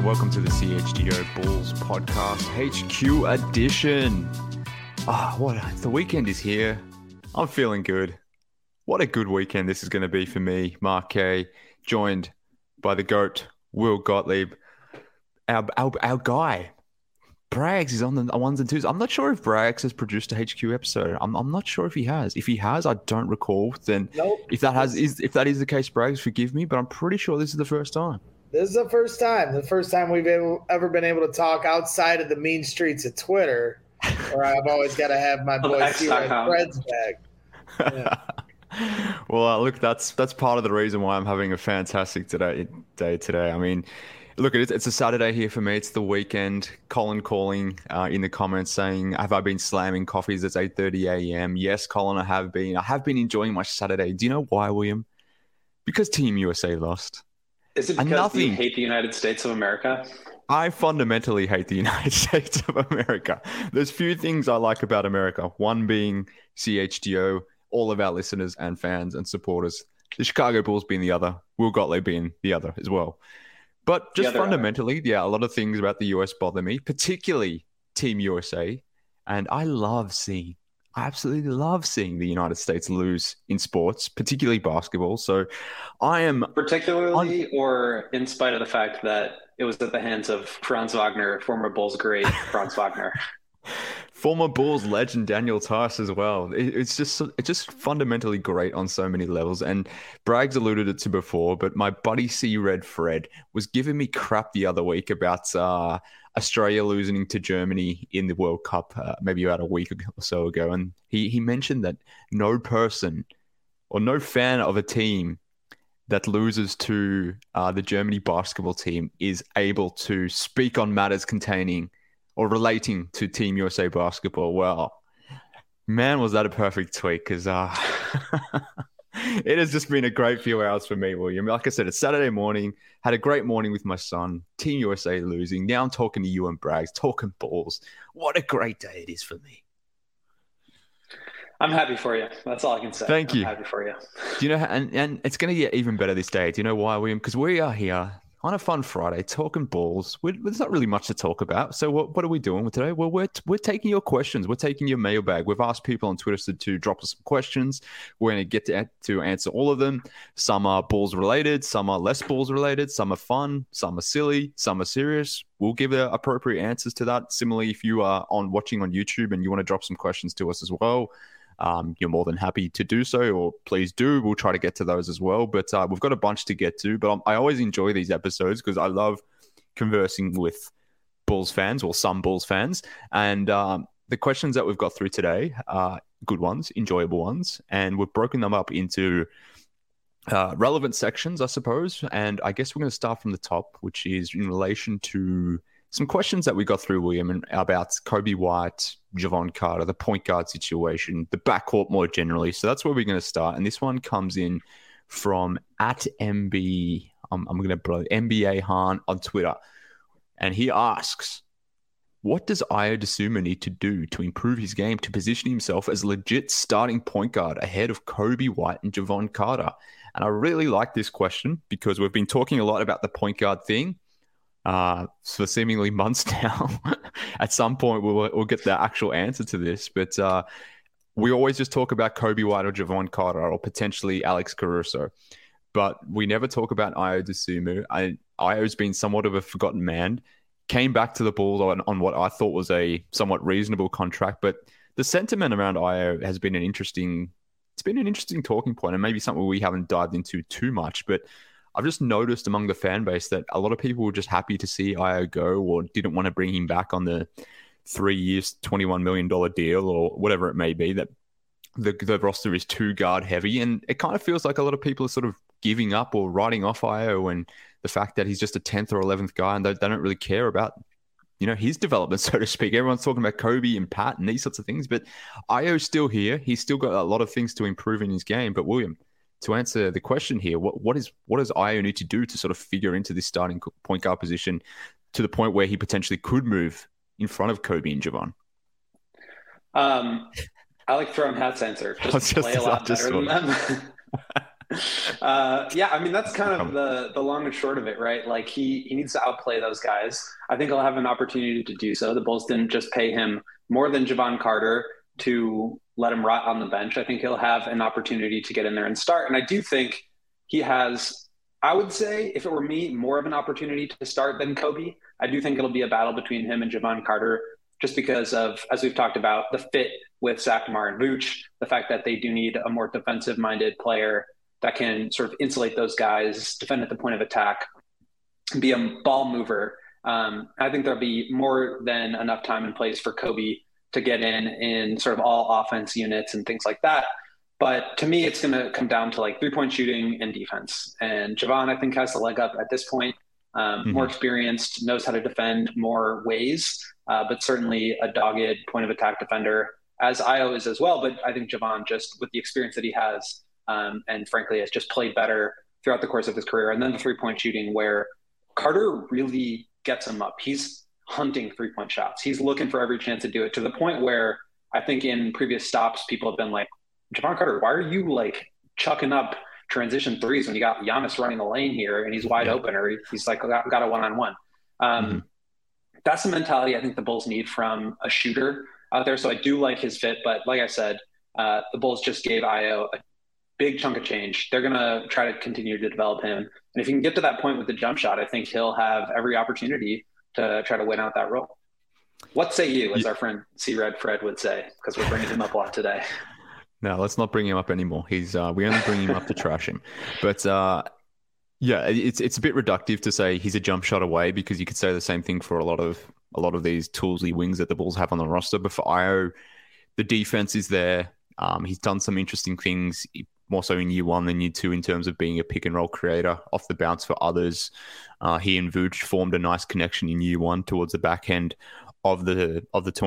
welcome to the CHGO Bulls Podcast HQ edition. The weekend is here. I'm feeling good. What a good weekend this is going to be for me, Mark Kay, joined by the GOAT, Will Gottlieb. Our guy, Braggs, is on the ones and twos. I'm not sure if Braggs has produced a HQ episode. I'm not sure if he has. If he has, I don't recall. Then nope. If that is the case, Braggs, forgive me, but I'm pretty sure this is the first time. This is the first time we've ever been able to talk outside of the mean streets of Twitter, where I've always got to have my boy Fred's back. Yeah. Well, look, that's part of the reason why I'm having a fantastic day today. I mean, look, it's a Saturday here for me. It's the weekend. Colin calling in the comments saying, have I been slamming coffees? It's 8:30 a.m. Yes, Colin, I have been. I have been enjoying my Saturday. Do you know why, William? Because Team USA lost. Is it because you hate the United States of America? I fundamentally hate the United States of America. There's few things I like about America. One being CHGO, all of our listeners and fans and supporters. The Chicago Bulls being the other. Will Gottlieb being the other as well. But just fundamentally, a lot of things about the US bother me, particularly Team USA. And I absolutely love seeing the United States lose in sports, particularly basketball. So I am... Particularly or in spite of the fact that it was at the hands of Franz Wagner, former Bulls great Franz Wagner. Former Bulls legend Daniel Tice as well. It's just fundamentally great on so many levels. And Braggs alluded it to before, but my buddy C Red Fred was giving me crap the other week about Australia losing to Germany in the World Cup, maybe about a week or so ago. And he mentioned that no person or no fan of a team that loses to the Germany basketball team is able to speak on matters containing or relating to Team USA basketball. Well, man, was that a perfect tweet, because it has just been a great few hours for me, William. Like I said, it's Saturday morning, had a great morning with my son, Team USA losing. Now I'm talking to you and Braggs, talking balls. What a great day it is for me. I'm happy for you. That's all I can say. Thank you. I'm happy for you. Do you know, and it's going to get even better this day. Do you know why, William? Because we are here on a fun Friday, talking balls. There's not really much to talk about. So what are we doing with today? Well, we're taking your questions. We're taking your mailbag. We've asked people on Twitter to drop us some questions. We're going to get to answer all of them. Some are balls related. Some are less balls related. Some are fun. Some are silly. Some are serious. We'll give appropriate answers to that. Similarly, if you are watching on YouTube and you want to drop some questions to us as well, you're more than happy to do so, or please do. We'll try to get to those as well. But we've got a bunch to get to. But I always enjoy these episodes because I love conversing with Bulls fans, or some Bulls fans. And the questions that we've got through today are good ones, enjoyable ones. And we've broken them up into relevant sections, I suppose. And I guess we're going to start from the top, which is in relation to some questions that we got through, William, about Coby White, Jevon Carter, the point guard situation, the backcourt more generally. So that's where we're going to start. And this one comes in from @MB, I'm going to blow NBA Han on Twitter. And he asks, what does Ayo Dosunmu need to do to improve his game to position himself as a legit starting point guard ahead of Coby White and Jevon Carter? And I really like this question because we've been talking a lot about the point guard thing for seemingly months now. At some point, we'll get the actual answer to this. But we always just talk about Coby White or Jevon Carter or potentially Alex Caruso. But we never talk about Ayo Dosunmu. Ayo's been somewhat of a forgotten man. Came back to the Bulls on what I thought was a somewhat reasonable contract. But the sentiment around Ayo has been an interesting talking point, and maybe something we haven't dived into too much. But I've just noticed among the fan base that a lot of people were just happy to see Ayo go, or didn't want to bring him back on the 3 years, $21 million deal, or whatever it may be, that the roster is too guard heavy. And it kind of feels like a lot of people are sort of giving up or writing off Ayo, and the fact that he's just a 10th or 11th guy, and they don't really care about, his development, so to speak. Everyone's talking about Coby and Pat and these sorts of things, but Ayo's still here. He's still got a lot of things to improve in his game. But William, to answer the question here, what does Ayo need to do to sort of figure into this starting point guard position to the point where he potentially could move in front of Coby and Jevon? I like throwing hats answer. Just play a lot better than them. Yeah, I mean, that's kind of the long and short of it, right? Like he needs to outplay those guys. I think he'll have an opportunity to do so. The Bulls didn't just pay him more than Jevon Carter to let him rot on the bench. I think he'll have an opportunity to get in there and start. And I do think he has, I would say, if it were me, more of an opportunity to start than Kobe. I do think it'll be a battle between him and Jevon Carter, just because of, as we've talked about, the fit with Zach, DeMar, and Vooch, the fact that they do need a more defensive-minded player that can sort of insulate those guys, defend at the point of attack, be a ball mover. I think there'll be more than enough time and place for Kobe to get in sort of all offense units and things like that. But to me, it's going to come down to like 3-point shooting and defense. And Jevon, I think, has the leg up at this point. More experienced, knows how to defend more ways, but certainly a dogged point of attack defender, as Ayo is as well. But I think Jevon, just with the experience that he has, and frankly has just played better throughout the course of his career. And then the 3-point shooting, where Carter really gets him up. He's hunting 3-point shots. He's looking for every chance to do it, to the point where I think in previous stops, people have been like, Jevon Carter, why are you like chucking up transition threes when you got Giannis running the lane here and he's wide open, or he's like got a one-on-one. That's the mentality I think the Bulls need from a shooter out there. So I do like his fit, but like I said, the Bulls just gave Ayo a big chunk of change. They're going to try to continue to develop him. And if he can get to that point with the jump shot, I think he'll have every opportunity to try to win out that role. What say you, as our friend C-Red Fred would say, because we're bringing him up a lot today. No, let's not bring him up anymore. We only bring him up to trash him. But yeah, it's a bit reductive to say he's a jump shot away, because you could say the same thing for a lot of these toolsy wings that the Bulls have on the roster. But for Ayo, the defense is there. He's done some interesting things, more so in year one than year two, in terms of being a pick and roll creator off the bounce for others. He and Vooch formed a nice connection in year one towards the back end of the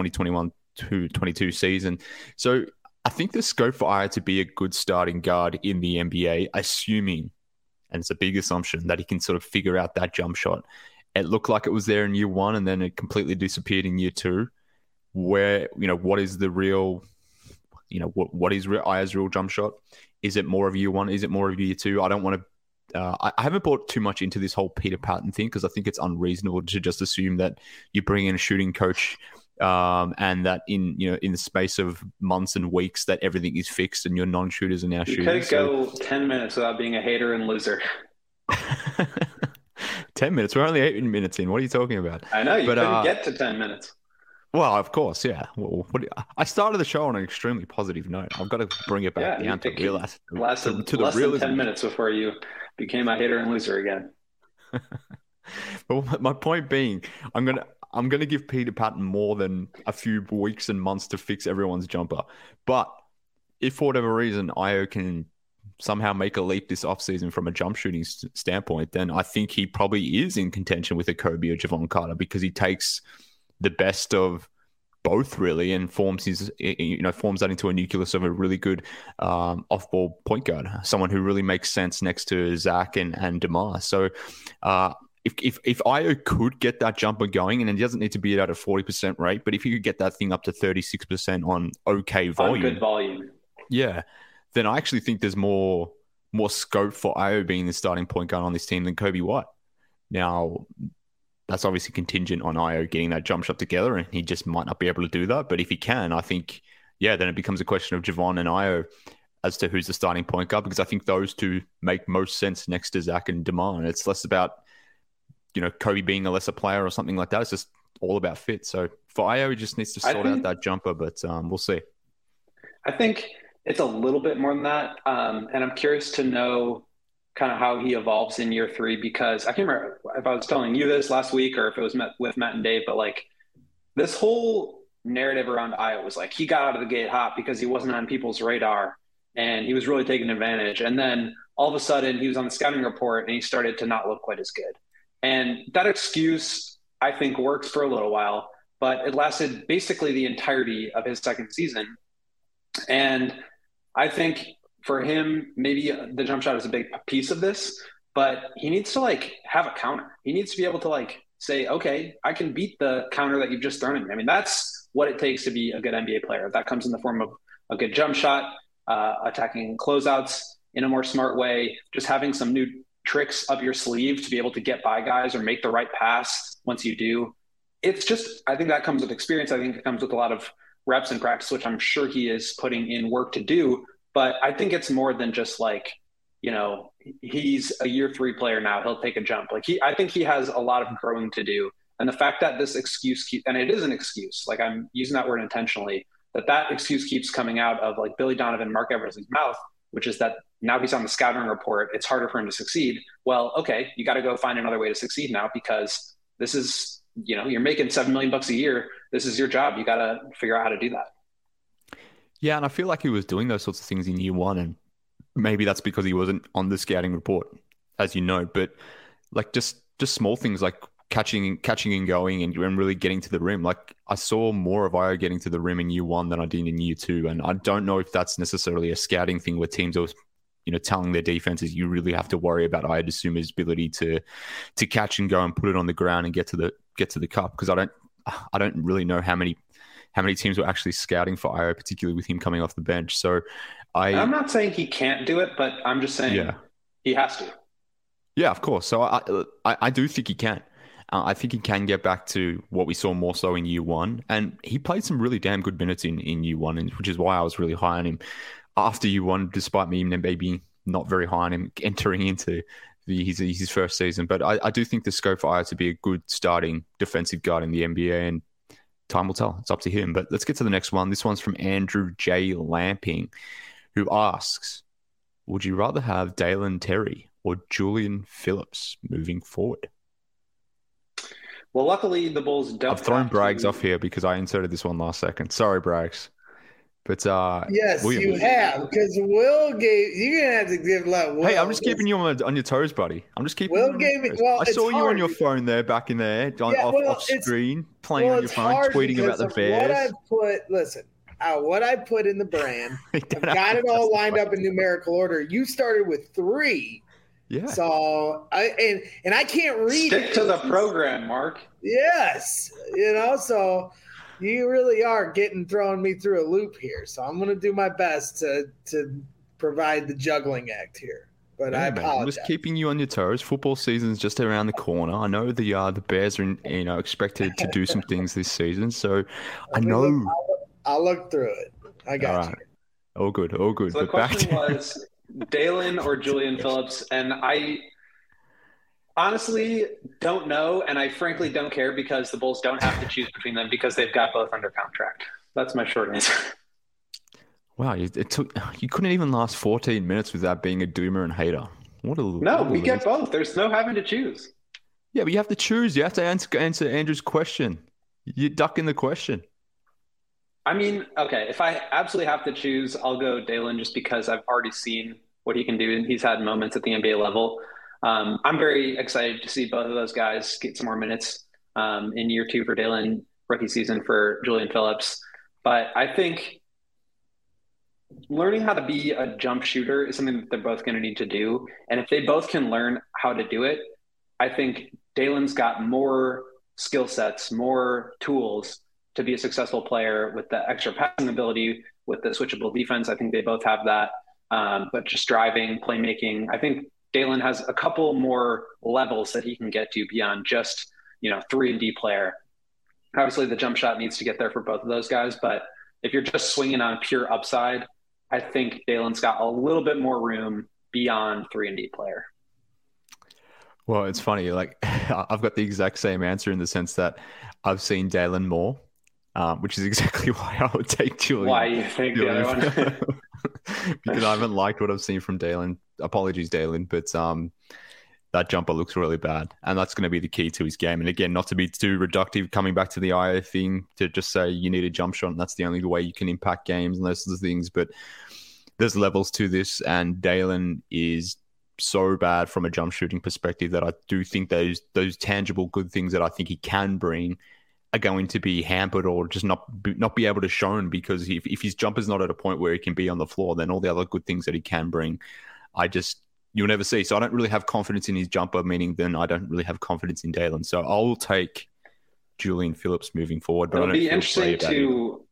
2021-22 season. So I think the scope for Ayo to be a good starting guard in the NBA, assuming, and it's a big assumption, that he can sort of figure out that jump shot. It looked like it was there in year one, and then it completely disappeared in year two. Where, what is the real, what is Ayo's real jump shot? Is it more of year one? Is it more of year two? I don't want to. I haven't bought too much into this whole Peter Patton thing, because I think it's unreasonable to just assume that you bring in a shooting coach and that in the space of months and weeks that everything is fixed and your non-shooters are now shooting. You could go 10 minutes without being a hater and loser. 10 minutes? We're only 8 minutes in. What are you talking about? I know, couldn't get to 10 minutes. Well, of course, yeah. Well, I started the show on an extremely positive note. I've got to bring it back down to realize lasted to the less realism. than 10 minutes before you became a hater and loser again. But my point being, I'm gonna give Peter Patton more than a few weeks and months to fix everyone's jumper. But if for whatever reason Ayo can somehow make a leap this offseason from a jump shooting standpoint, then I think he probably is in contention with a Kobe or Jevon Carter, because he takes the best of both really and forms that into a nucleus of a really good off-ball point guard, someone who really makes sense next to Zach and DeMar. So if Ayo could get that jumper going, and it doesn't need to be at a 40% rate, but if he could get that thing up to 36% on okay volume, on good volume, yeah, then I actually think there's more scope for Ayo being the starting point guard on this team than Kobe White. Now, that's obviously contingent on Ayo getting that jump shot together, and he just might not be able to do that. But if he can, I think, then it becomes a question of Jevon and Ayo as to who's the starting point guard, because I think those two make most sense next to Zach and DeMar. And it's less about, Kobe being a lesser player or something like that. It's just all about fit. So for Ayo, he just needs to sort out that jumper, but we'll see. I think it's a little bit more than that. And I'm curious to know kind of how he evolves in year three, because I can't remember if I was telling you this last week or if it was with Matt and Dave, but like this whole narrative around Ayo was like, he got out of the gate hot because he wasn't on people's radar and he was really taking advantage. And then all of a sudden he was on the scouting report and he started to not look quite as good. And that excuse, I think, works for a little while, but it lasted basically the entirety of his second season. And I think for him, maybe the jump shot is a big piece of this, but he needs to have a counter. He needs to be able to say, okay, I can beat the counter that you've just thrown at me. I mean, that's what it takes to be a good NBA player. That comes in the form of a good jump shot, attacking closeouts, in a more smart way, just having some new tricks up your sleeve to be able to get by guys or make the right pass once you do. It's just, I think that comes with experience. I think it comes with a lot of reps in practice, which I'm sure he is putting in work to do. But I think it's more than just like, he's a year 3 player now. He'll take a jump. I think he has a lot of growing to do. And the fact that this excuse and it is an excuse, like I'm using that word intentionally, that excuse keeps coming out of like Billy Donovan, Mark Eversley's mouth, which is that now he's on the scouting report. It's harder for him to succeed. Well, okay, you got to go find another way to succeed now, because this is, you're making $7 million a year. This is your job. You got to figure out how to do that. Yeah. And I feel like he was doing those sorts of things in year 1, and maybe that's because he wasn't on the scouting report, as you know, but like just small things like catching and going and really getting to the rim. Like I saw more of Ayo getting to the rim in year 1 than I did in year 2. And I don't know if that's necessarily a scouting thing where teams are, telling their defenses, you really have to worry about Ayo Dosunmu's ability to catch and go and put it on the ground and get to the cup. Because I don't really know how many teams were actually scouting for Ayo, particularly with him coming off the bench. So I'm not saying he can't do it, but I'm just saying he has to. Yeah, of course. So I do think he can. I think he can get back to what we saw more so in year 1. And he played some really damn good minutes in year 1, which is why I was really high on him after year 1, despite me maybe not very high on him entering into his first season. But I do think the scope for Ayo to be a good starting defensive guard in the NBA, and time will tell. It's up to him. But let's get to the next one. This one's from Andrew J. Lamping, who asks, would you rather have Dalen Terry or Julian Phillips moving forward? Well, luckily the Bulls don't. I've thrown Braggs off here because I inserted this one last second. Sorry, Braggs. But yes, you have, because Will gave. You're gonna have to give Will. Hey, I'm just keeping you on your toes, buddy. I'm just keeping. Will gave me. Well, I saw you on your phone there, back in there, off screen, playing on your phone, tweeting about the Bears. What I put in the brand, I've got it all lined up in numerical order. You started with 3. Yeah. So I can't read. Stick to the program, Mark. Yes. So you really are throwing me through a loop here. So I'm going to do my best to provide the juggling act here. But I apologize. I'm just keeping you on your toes. Football season's just around the corner. I know the Bears are expected to do some things this season. So I know. I'll look through it. I got you. All good. So the question was Dalen or Julian Phillips, and I honestly don't know, and I frankly don't care, because the Bulls don't have to choose between them because they've got both under contract. That's my short answer. Wow, you couldn't even last 14 minutes without being a doomer and hater. We get both. There's no having to choose. Yeah, but you have to choose. You have to answer Andrew's question. You're ducking the question. I mean, okay, if I absolutely have to choose, I'll go Dalen, just because I've already seen what he can do, and he's had moments at the NBA level. I'm very excited to see both of those guys get some more minutes in year 2 for Dalen, rookie season for Julian Phillips. But I think learning how to be a jump shooter is something that they're both going to need to do. And if they both can learn how to do it, I think Dalen's got more skill sets, more tools to be a successful player with the extra passing ability, with the switchable defense. I think they both have that. But just driving, playmaking, I think Dalen has a couple more levels that he can get to beyond just, 3-and-D player. Obviously, the jump shot needs to get there for both of those guys. But if you're just swinging on pure upside, I think Dalen's got a little bit more room beyond 3-and-D player. Well, it's funny. Like, I've got the exact same answer in the sense that I've seen Dalen more. Which is exactly why I would take Julian. Why you think the other one? Because I haven't liked what I've seen from Dalen. Apologies, Dalen, but that jumper looks really bad, and that's going to be the key to his game. And again, not to be too reductive, coming back to the Ayo thing, to just say you need a jump shot, and that's the only way you can impact games and those sorts of things. But there's levels to this, and Dalen is so bad from a jump shooting perspective that I do think those tangible good things that I think he can bring are going to be hampered or just not be able to shown, because if his jumper's not at a point where he can be on the floor, then all the other good things that he can bring, you'll never see. So I don't really have confidence in his jumper, meaning then I don't really have confidence in Dalen. So I'll take Julian Phillips moving forward. But it'll be interesting to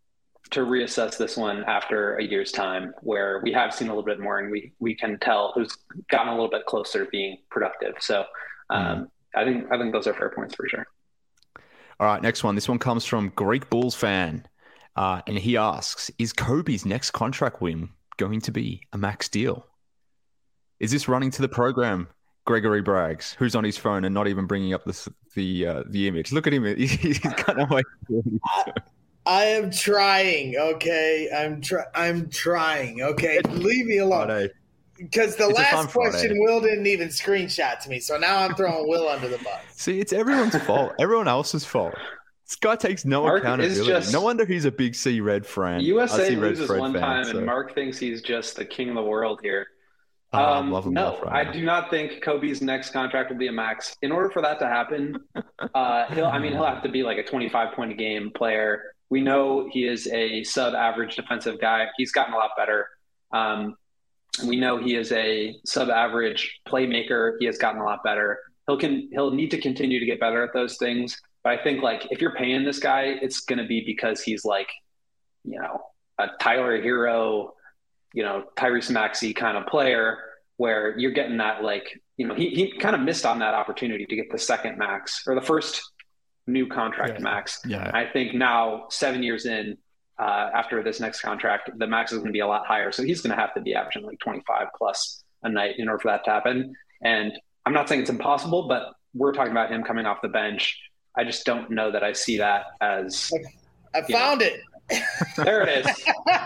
to reassess this one after a year's time, where we have seen a little bit more, and we can tell who's gotten a little bit closer to being productive. So I think those are fair points for sure. All right, next one. This one comes from Greek Bulls fan, and he asks: is Kobe's next contract win going to be a max deal? Is this running to the program, Gregory Braggs, who's on his phone and not even bringing up the image? Look at him; he's kind of like. I am trying. Okay, I'm trying. Okay, leave me alone. Because the last question, Will didn't even screenshot to me, so now I'm throwing Will under the bus. See, it's everyone's fault. Everyone else's fault. This guy takes no accountability. No wonder he's a big C Red fan. USA loses one time, and Mark thinks he's just the king of the world here. No, I do not think Kobe's next contract will be a max. In order for that to happen, he'll have to be like a 25-point a game player. We know he is a sub-average defensive guy. He's gotten a lot better. We know he is a sub-average playmaker. He has gotten a lot better. He'll need to continue to get better at those things. But I think like if you're paying this guy, it's going to be because he's like, a Tyler Hero, Tyrese Maxey kind of player, where you're getting that he kind of missed on that opportunity to get the second max or the first new contract max. Yeah. I think now 7 years in, after this next contract, the max is going to be a lot higher. So he's going to have to be averaging like 25 plus a night in order for that to happen. And I'm not saying it's impossible, but we're talking about him coming off the bench. I just don't know that I see that as. I found it. There it is.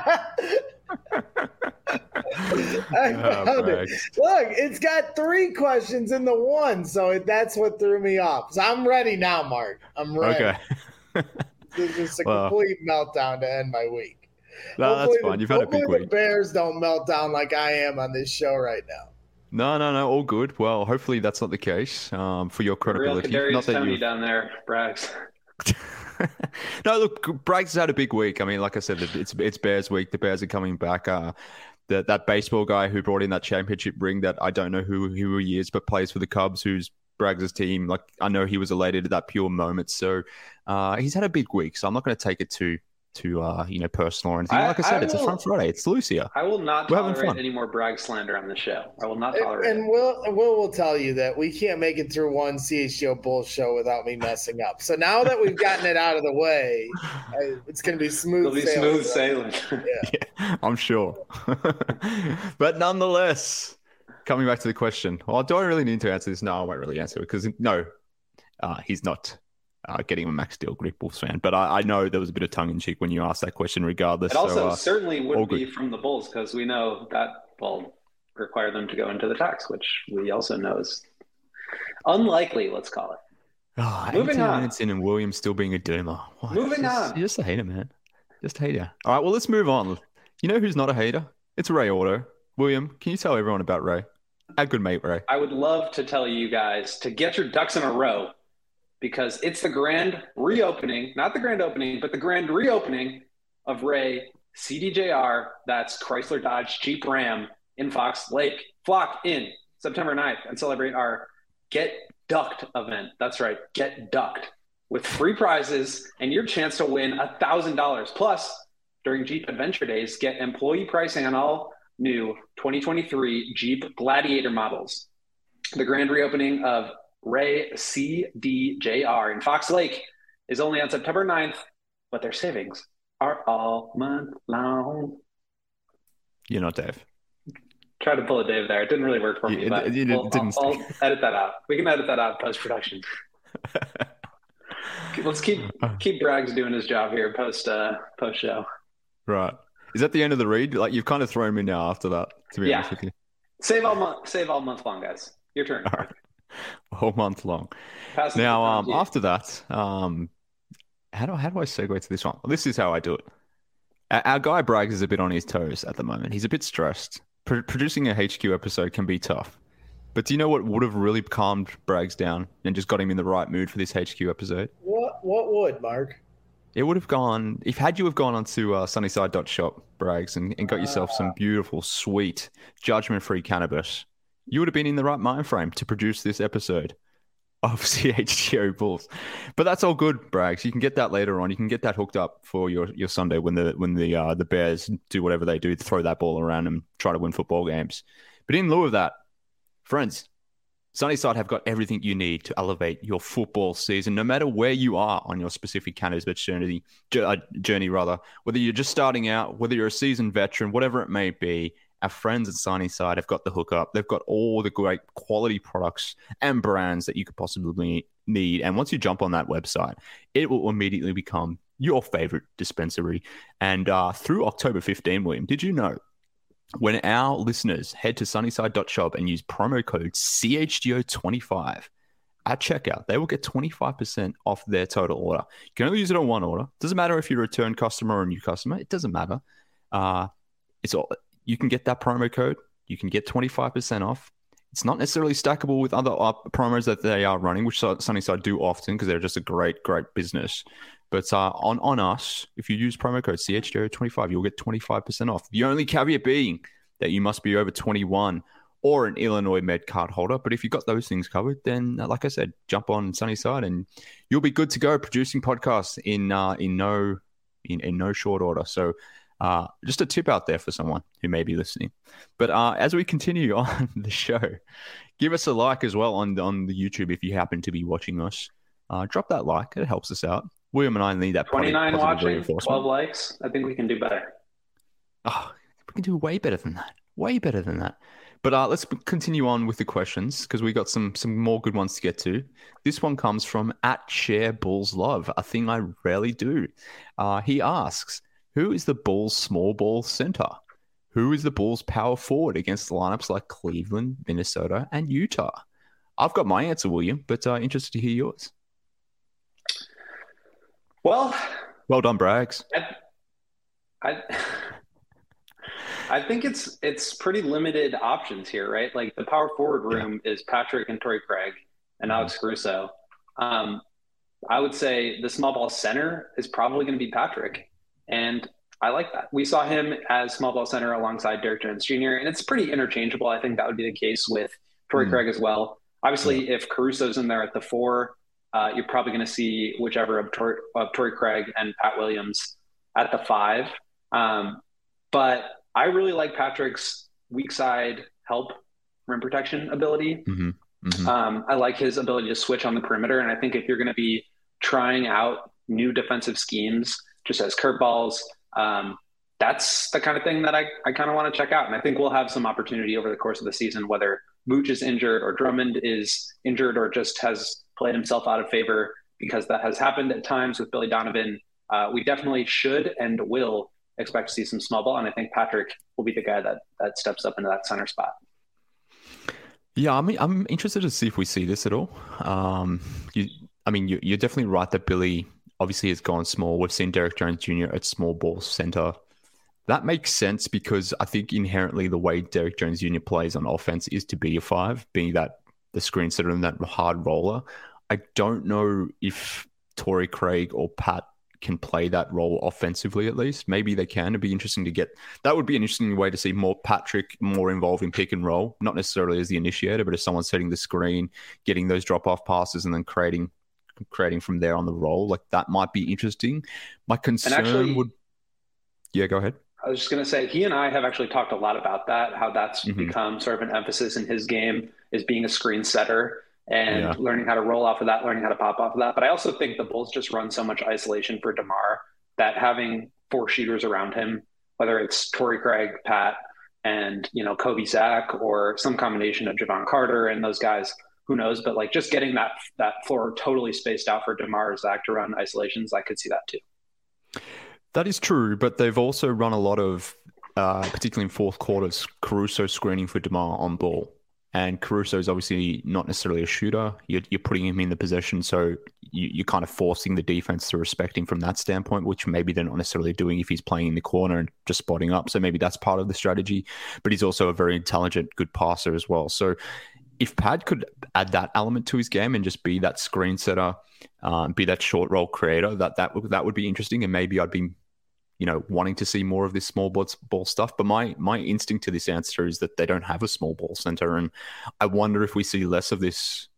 I found it. Look, it's got 3 questions in the one, so that's what threw me off. So I'm ready now, Mark. I'm ready. Okay. This is a complete meltdown to end my week. No, that's fine. You've had a big week. The Bears don't melt down like I am on this show right now. No, all good. Well, hopefully that's not the case for your credibility. Real not that Tony down there, Braggs. No, look, Braggs has had a big week. I mean, like I said, it's Bears week. The Bears are coming back. That baseball guy who brought in that championship ring that I don't know who he is, but plays for the Cubs, who's Braggs' team. Like, I know he was elated at that pure moment. So he's had a big week. So I'm not going to take it too personal or anything. Like I said, it's a fun Friday. It's loose here. I will not tolerate any more Bragg slander on the show. I will not tolerate it. And Will will tell you that we can't make it through one CHGO Bulls show without me messing up. So now that we've gotten it out of the way, it's going to be smooth sailing. Yeah, I'm sure. But nonetheless, coming back to the question, do I really need to answer this? No, I won't really answer it because no, he's not. Getting a max deal, Greek Bulls fan. But I know there was a bit of tongue-in-cheek when you asked that question regardless. It also certainly wouldn't be from the Bulls because we know that will require them to go into the tax, which we also know is unlikely, let's call it. Moving on. Minutes in and Williams still being a doomer. Moving on. You're just a hater, man. Just a hater. All right, well, let's move on. You know who's not a hater? It's Ray Auto. William, can you tell everyone about Ray? Our good mate, Ray. I would love to tell you guys to get your ducks in a row, because it's the grand reopening, not the grand opening, but the grand reopening of Ray CDJR, that's Chrysler Dodge Jeep Ram in Fox Lake. Flock in September 9th and celebrate our Get Ducked event. That's right, Get Ducked, with free prizes and your chance to win $1,000. Plus, during Jeep Adventure Days, get employee pricing on all new 2023 Jeep Gladiator models. The grand reopening of Ray CDJR in Fox Lake is only on September 9th, but their savings are all month long. You're not Dave. Try to pull a Dave there. It didn't really work for me, but I'll edit that out. We can edit that out in post-production. Let's keep Braggs doing his job here post-show. Right. Is that the end of the read? Like, you've kind of thrown me now after that, to be honest with you. Save all month long, guys. Your turn. All right. All month long. Now, after that, how do I segue to this one? Well, this is how I do it. Our guy Braggs is a bit on his toes at the moment. He's a bit stressed. Producing a HQ episode can be tough. But do you know what would have really calmed Braggs down and just got him in the right mood for this HQ episode? What would, Mark? It would have gone, had you have gone onto sunnyside.shop, Braggs, and got yourself some beautiful, sweet, judgment-free cannabis, you would have been in the right mind frame to produce this episode. of CHGO Bulls. But that's all good, Braggs. You can get that later on. You can get that hooked up for your Sunday when the Bears do whatever they do, throw that ball around and try to win football games. But in lieu of that, friends, Sunnyside have got everything you need to elevate your football season, no matter where you are on your specific cannabis journey, whether you're just starting out, whether you're a seasoned veteran, whatever it may be. Our friends at Sunnyside have got the hookup. They've got all the great quality products and brands that you could possibly need. And once you jump on that website, it will immediately become your favorite dispensary. And through October 15, William, did you know when our listeners head to sunnyside.shop and use promo code CHGO25 at checkout, they will get 25% off their total order. You can only use it on one order. Doesn't matter if you're a return customer or a new customer. It doesn't matter. You can get that promo code. You can get 25% off. It's not necessarily stackable with other promos that they are running, which Sunnyside do often because they're just a great, great business. But on us, if you use promo code CHGO25, you'll get 25% off. The only caveat being that you must be over 21 or an Illinois Med card holder. But if you've got those things covered, then like I said, jump on Sunnyside and you'll be good to go producing podcasts in no short order. So just a tip out there for someone who may be listening. But as we continue on the show, give us a like as well on the YouTube if you happen to be watching us. Drop that like. It helps us out. William and I need that 29 watching, 12 likes. I think we can do better. Oh, we can do way better than that. Way better than that. But let's continue on with the questions because we got some more good ones to get to. This one comes from @ShareBullsLove, a thing I rarely do. He asks, who is the Bulls' small ball center? Who is the Bulls' power forward against lineups like Cleveland, Minnesota, and Utah? I've got my answer, William, but interested to hear yours. Well done, Braggs. I think it's pretty limited options here, right? Like the power forward room is Patrick and Torrey Craig and Alex Caruso. I would say the small ball center is probably going to be Patrick. And I like that. We saw him as small ball center alongside Derek Jones Jr., and it's pretty interchangeable. I think that would be the case with Torrey Craig as well. Obviously, if Caruso's in there at the 4, you're probably going to see whichever of Torrey Craig and Pat Williams at the 5. But I really like Patrick's weak side help rim protection ability. I like his ability to switch on the perimeter. And I think if you're going to be trying out new defensive schemes, just as curveballs, that's the kind of thing that I kind of want to check out. And I think we'll have some opportunity over the course of the season, whether Mooch is injured or Drummond is injured or just has played himself out of favor, because that has happened at times with Billy Donovan. We definitely should and will expect to see some small ball. And I think Patrick will be the guy that steps up into that center spot. Yeah, I mean, I'm interested to see if we see this at all. You're definitely right that Billy obviously has gone small. We've seen Derek Jones Jr. at small ball center. That makes sense because I think inherently the way Derek Jones Jr. plays on offense is to be a 5, being that the screen setter and that hard roller. I don't know if Torrey Craig or Pat can play that role offensively, at least. Maybe they can. It'd be interesting to get. That would be an interesting way to see more Patrick more involved in pick and roll, not necessarily as the initiator, but as someone setting the screen, getting those drop-off passes and then creating from there on the roll. Like that might be interesting. My concern would... Yeah, go ahead. I was just going to say, he and I have actually talked a lot about that, how that's become sort of an emphasis in his game, is being a screen setter and learning how to roll off of that, learning how to pop off of that. But I also think the Bulls just run so much isolation for DeMar that having 4 shooters around him, whether it's Torrey Craig, Pat, and, Kobe Zach, or some combination of Javon Carter and those guys, who knows? But like just getting that floor totally spaced out for DeMar or Zach to run isolations, I could see that too. That is true, but they've also run a lot of, particularly in fourth quarters, Caruso screening for DeMar on ball. And Caruso is obviously not necessarily a shooter. You're putting him in the possession, so you're kind of forcing the defense to respect him from that standpoint, which maybe they're not necessarily doing if he's playing in the corner and just spotting up. So maybe that's part of the strategy. But he's also a very intelligent, good passer as well. So if Pat could add that element to his game and just be that screen setter, be that short roll creator, that would be interesting. And maybe I'd be wanting to see more of this small ball stuff. But my instinct to this answer is that they don't have a small ball center. And I wonder if we see less of this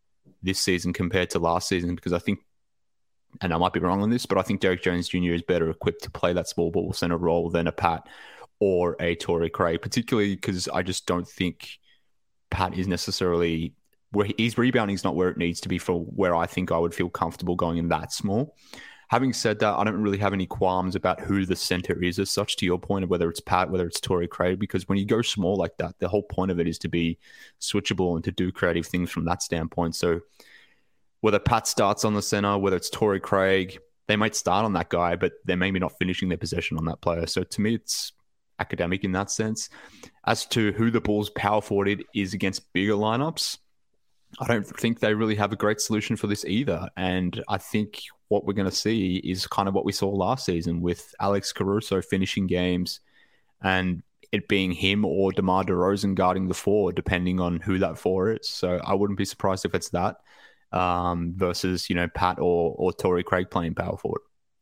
this season compared to last season, because I think, and I might be wrong on this, but I think Derek Jones Jr. is better equipped to play that small ball center role than a Pat or a Torrey Craig, particularly because I just don't think Pat is necessarily where his rebounding is not where it needs to be for where I think I would feel comfortable going in that small. Having said that, I don't really have any qualms about who the center is as such, to your point of whether it's Pat, whether it's Torrey Craig, because when you go small like that, the whole point of it is to be switchable and to do creative things from that standpoint. So whether Pat starts on the center, whether it's Torrey Craig, they might start on that guy, but they're maybe not finishing their possession on that player. So to me, it's academic in that sense. As to who the Bulls power forward is against bigger lineups, I don't think they really have a great solution for this either. And I think what we're going to see is kind of what we saw last season with Alex Caruso finishing games and it being him or DeMar DeRozan guarding the four, depending on who that four is. So I wouldn't be surprised if it's that versus, Pat or Torrey Craig playing power forward.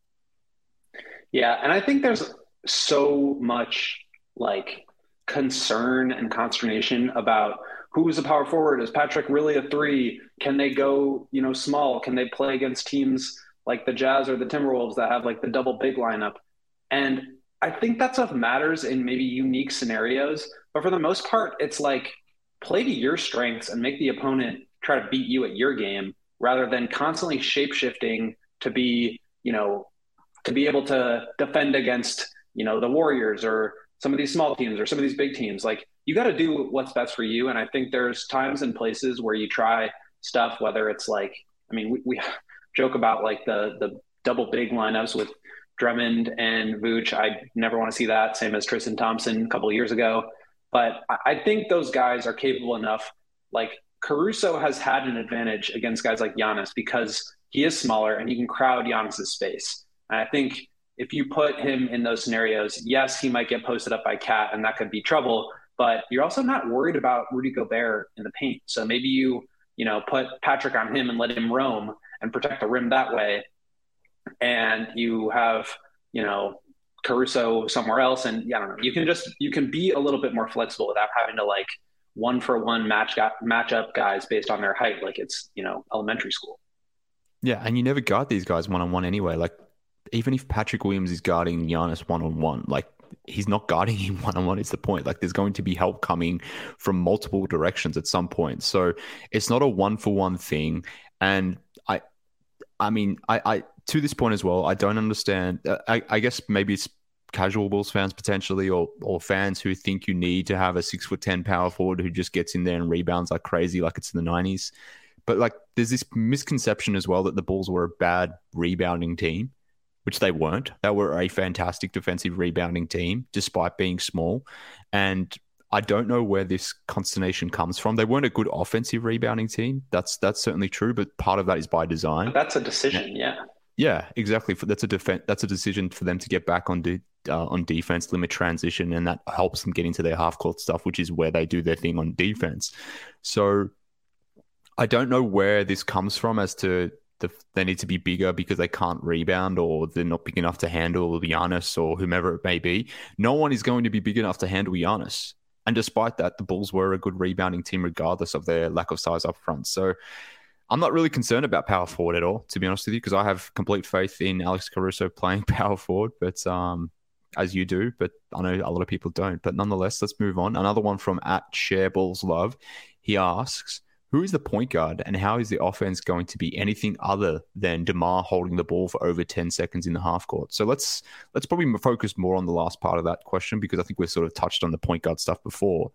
Yeah, and I think there's so much concern and consternation about who's a power forward. Is Patrick really a three? Can they go, small? Can they play against teams like the Jazz or the Timberwolves that have the double big lineup? And I think that stuff matters in maybe unique scenarios. But for the most part, it's play to your strengths and make the opponent try to beat you at your game rather than constantly shape-shifting to be, to be able to defend against, the Warriors or some of these small teams or some of these big teams. You got to do what's best for you. And I think there's times and places where you try stuff, whether it's we joke about the double big lineups with Drummond and Vooch. I never want to see that, same as Tristan Thompson a couple of years ago. But I think those guys are capable enough. Caruso has had an advantage against guys like Giannis because he is smaller and he can crowd Giannis's space. And I think if you put him in those scenarios, yes, he might get posted up by Cat and that could be trouble. But you're also not worried about Rudy Gobert in the paint. So maybe you put Patrick on him and let him roam and protect the rim that way. And you have, Caruso somewhere else. And I don't know, you can be a little bit more flexible without having to one for one match up guys based on their height. It's, elementary school. Yeah. And you never guard these guys one-on-one anyway. Even if Patrick Williams is guarding Giannis one-on-one, he's not guarding him one-on-one is the point. There's going to be help coming from multiple directions at some point. So it's not a one-for-one thing. And I mean, to this point as well, I don't understand. I guess maybe it's casual Bulls fans potentially, or fans who think you need to have a 6'10" power forward who just gets in there and rebounds like crazy, like it's in the 90s. But there's this misconception as well that the Bulls were a bad rebounding team, which they weren't. They were a fantastic defensive rebounding team, despite being small. And I don't know where this consternation comes from. They weren't a good offensive rebounding team. That's certainly true, but part of that is by design. That's a decision, yeah. Yeah, exactly. That's a decision for them to get back on defense, limit transition, and that helps them get into their half-court stuff, which is where they do their thing on defense. So I don't know where this comes from as to they need to be bigger because they can't rebound or they're not big enough to handle Giannis or whomever it may be. No one is going to be big enough to handle Giannis. And despite that, the Bulls were a good rebounding team regardless of their lack of size up front. So I'm not really concerned about power forward at all, to be honest with you, because I have complete faith in Alex Caruso playing power forward, but as you do, but I know a lot of people don't. But nonetheless, let's move on. Another one from @ShareBallsLove. He asks, who is the point guard and how is the offense going to be anything other than DeMar holding the ball for over 10 seconds in the half court? So let's probably focus more on the last part of that question because I think we've sort of touched on the point guard stuff before.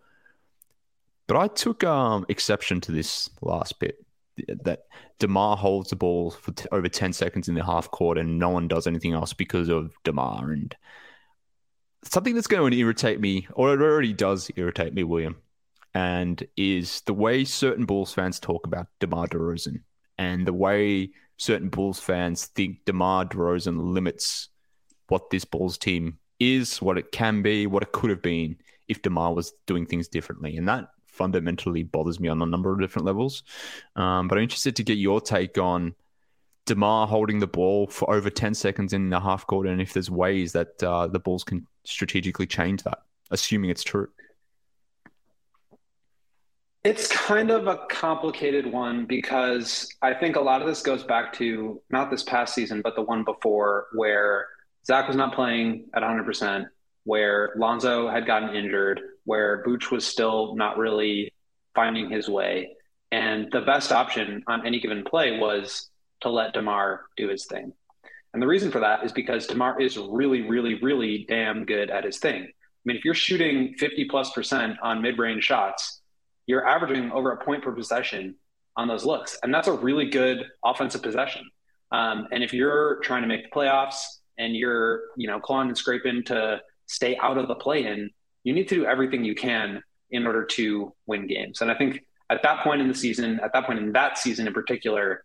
But I took exception to this last bit, that DeMar holds the ball for over 10 seconds in the half court and no one does anything else because of DeMar. And something that's going to irritate me, or it already does irritate me, William, and is the way certain Bulls fans talk about DeMar DeRozan and the way certain Bulls fans think DeMar DeRozan limits what this Bulls team is, what it can be, what it could have been if DeMar was doing things differently. And that fundamentally bothers me on a number of different levels. But I'm interested to get your take on DeMar holding the ball for over 10 seconds in the half court and if there's ways that the Bulls can strategically change that, assuming it's true. It's kind of a complicated one because I think a lot of this goes back to not this past season, but the one before where Zach was not playing at 100%, where Lonzo had gotten injured, where Vooch was still not really finding his way. And the best option on any given play was to let DeMar do his thing. And the reason for that is because DeMar is really, really, really damn good at his thing. I mean, if you're shooting 50+% on mid-range shots, you're averaging over a point per possession on those looks. And that's a really good offensive possession. And if you're trying to make the playoffs and you're, clawing and scraping to stay out of the play-in, you need to do everything you can in order to win games. And I think at that point in the season, in that season in particular,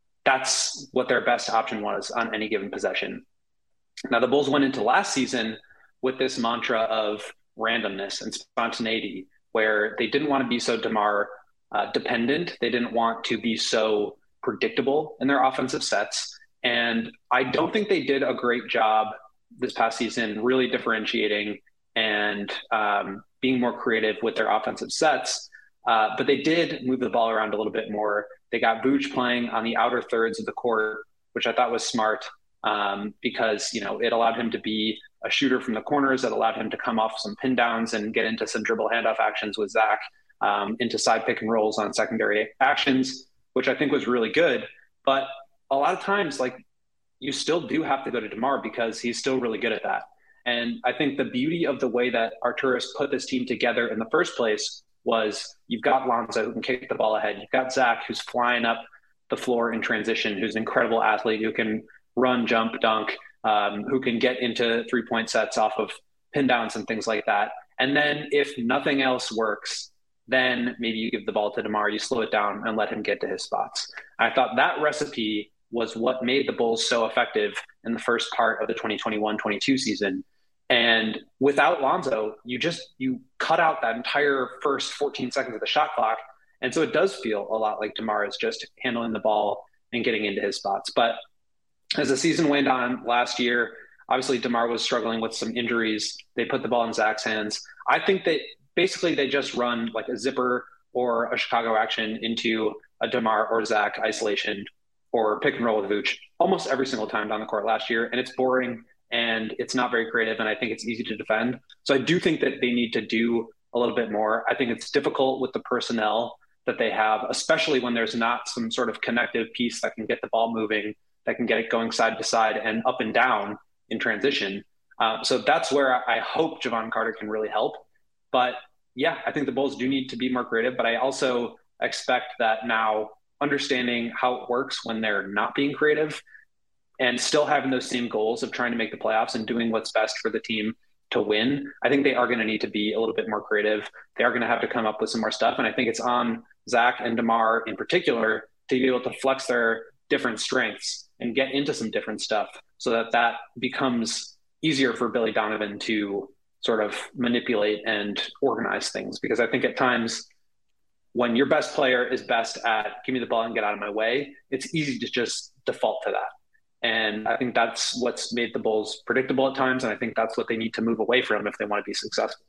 that's what their best option was on any given possession. Now, the Bulls went into last season with this mantra of randomness and spontaneity, where they didn't want to be so DeMar dependent. They didn't want to be so predictable in their offensive sets. And I don't think they did a great job this past season really differentiating and being more creative with their offensive sets. But they did move the ball around a little bit more. They got Vooch playing on the outer thirds of the court, which I thought was smart because, it allowed him to be a shooter from the corners, that allowed him to come off some pin downs and get into some dribble handoff actions with Zach, into side pick and rolls on secondary actions, which I think was really good. But a lot of times, you still do have to go to DeMar because he's still really good at that. And I think the beauty of the way that Arturas put this team together in the first place was you've got Lonzo who can kick the ball ahead. You've got Zach who's flying up the floor in transition, who's an incredible athlete, who can run, jump, dunk, who can get into 3-point sets off of pin downs and things like that. And then if nothing else works, then maybe you give the ball to DeMar, you slow it down and let him get to his spots. I thought that recipe was what made the Bulls so effective in the first part of the 2021-22 season. And without Lonzo, you cut out that entire first 14 seconds of the shot clock. And so it does feel a lot like DeMar is just handling the ball and getting into his spots. But as the season went on last year, obviously DeMar was struggling with some injuries. They put the ball in Zach's hands. I think that basically they just run like a zipper or a Chicago action into a DeMar or Zach isolation or pick and roll with Vooch almost every single time down the court last year. And it's boring and it's not very creative. And I think it's easy to defend. So I do think that they need to do a little bit more. I think it's difficult with the personnel that they have, especially when there's not some sort of connective piece that can get the ball moving, that can get it going side to side and up and down in transition. So that's where I hope Jevon Carter can really help. But yeah, I think the Bulls do need to be more creative, but I also expect that now understanding how it works when they're not being creative and still having those same goals of trying to make the playoffs and doing what's best for the team to win, I think they are going to need to be a little bit more creative. They are going to have to come up with some more stuff. And I think it's on Zach and DeMar in particular to be able to flex their different strengths and get into some different stuff so that becomes easier for Billy Donovan to sort of manipulate and organize things. Because I think at times when your best player is best at give me the ball and get out of my way, it's easy to just default to that. And I think that's what's made the Bulls predictable at times. And I think that's what they need to move away from if they want to be successful.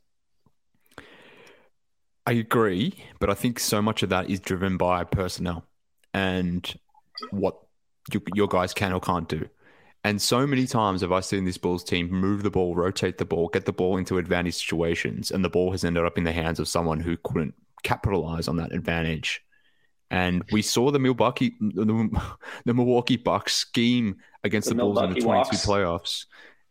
I agree, but I think so much of that is driven by personnel and what your guys can or can't do. And so many times have I seen this Bulls team move the ball, rotate the ball, get the ball into advantage situations, and the ball has ended up in the hands of someone who couldn't capitalize on that advantage. And we saw the Milwaukee Bucks scheme against the Bulls in the 22 playoffs,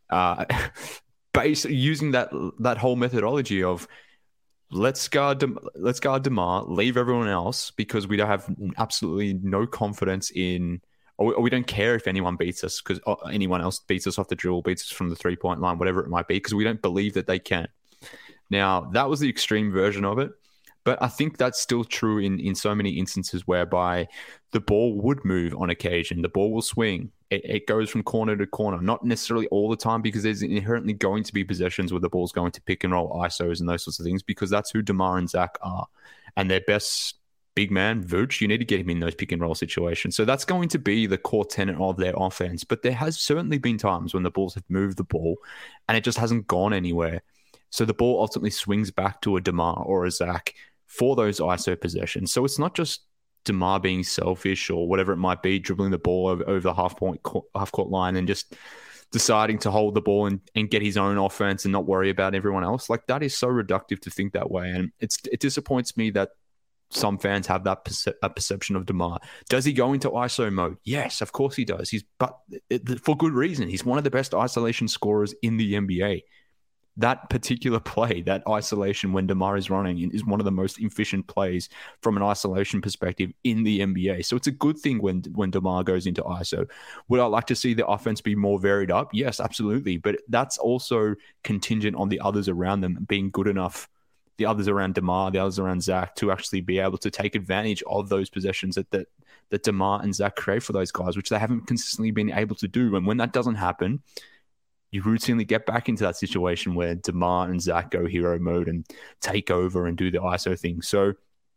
using that whole methodology of let's guard DeMar, leave everyone else because we don't have absolutely no confidence in, or we don't care if anyone beats us because anyone else beats us off the dribble, beats us from the 3-point line, whatever it might be, because we don't believe that they can. Now, that was the extreme version of it. But I think that's still true in so many instances whereby the ball would move on occasion. The ball will swing. It goes from corner to corner, not necessarily all the time because there's inherently going to be possessions where the ball's going to pick and roll ISOs and those sorts of things because that's who DeMar and Zach are. And their best big man, Vooch, you need to get him in those pick and roll situations. So that's going to be the core tenet of their offense. But there has certainly been times when the Bulls have moved the ball and it just hasn't gone anywhere. So the ball ultimately swings back to a DeMar or a Zach for those ISO possessions. So it's not just DeMar being selfish or whatever it might be, dribbling the ball over the half-court line and just deciding to hold the ball and get his own offense and not worry about everyone else. Like, that is so reductive to think that way. And it disappoints me that some fans have that perception of DeMar. Does he go into ISO mode? Yes, of course he does. But for good reason. He's one of the best isolation scorers in the NBA. That particular play, that isolation when DeMar is running, is one of the most efficient plays from an isolation perspective in the NBA. So it's a good thing when DeMar goes into ISO. Would I like to see the offense be more varied up? Yes, absolutely. But that's also contingent on the others around them being good enough, the others around DeMar, the others around Zach, to actually be able to take advantage of those possessions that DeMar and Zach create for those guys, which they haven't consistently been able to do. And when that doesn't happen, you routinely get back into that situation where DeMar and Zach go hero mode and take over and do the ISO thing. So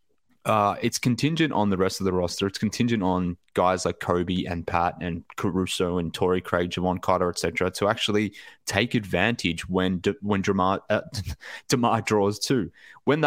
it's contingent on the rest of the roster. It's contingent on guys like Kobe and Pat and Caruso and Torrey Craig, Jevon Carter, etc., to actually take advantage when DeMar draws too. When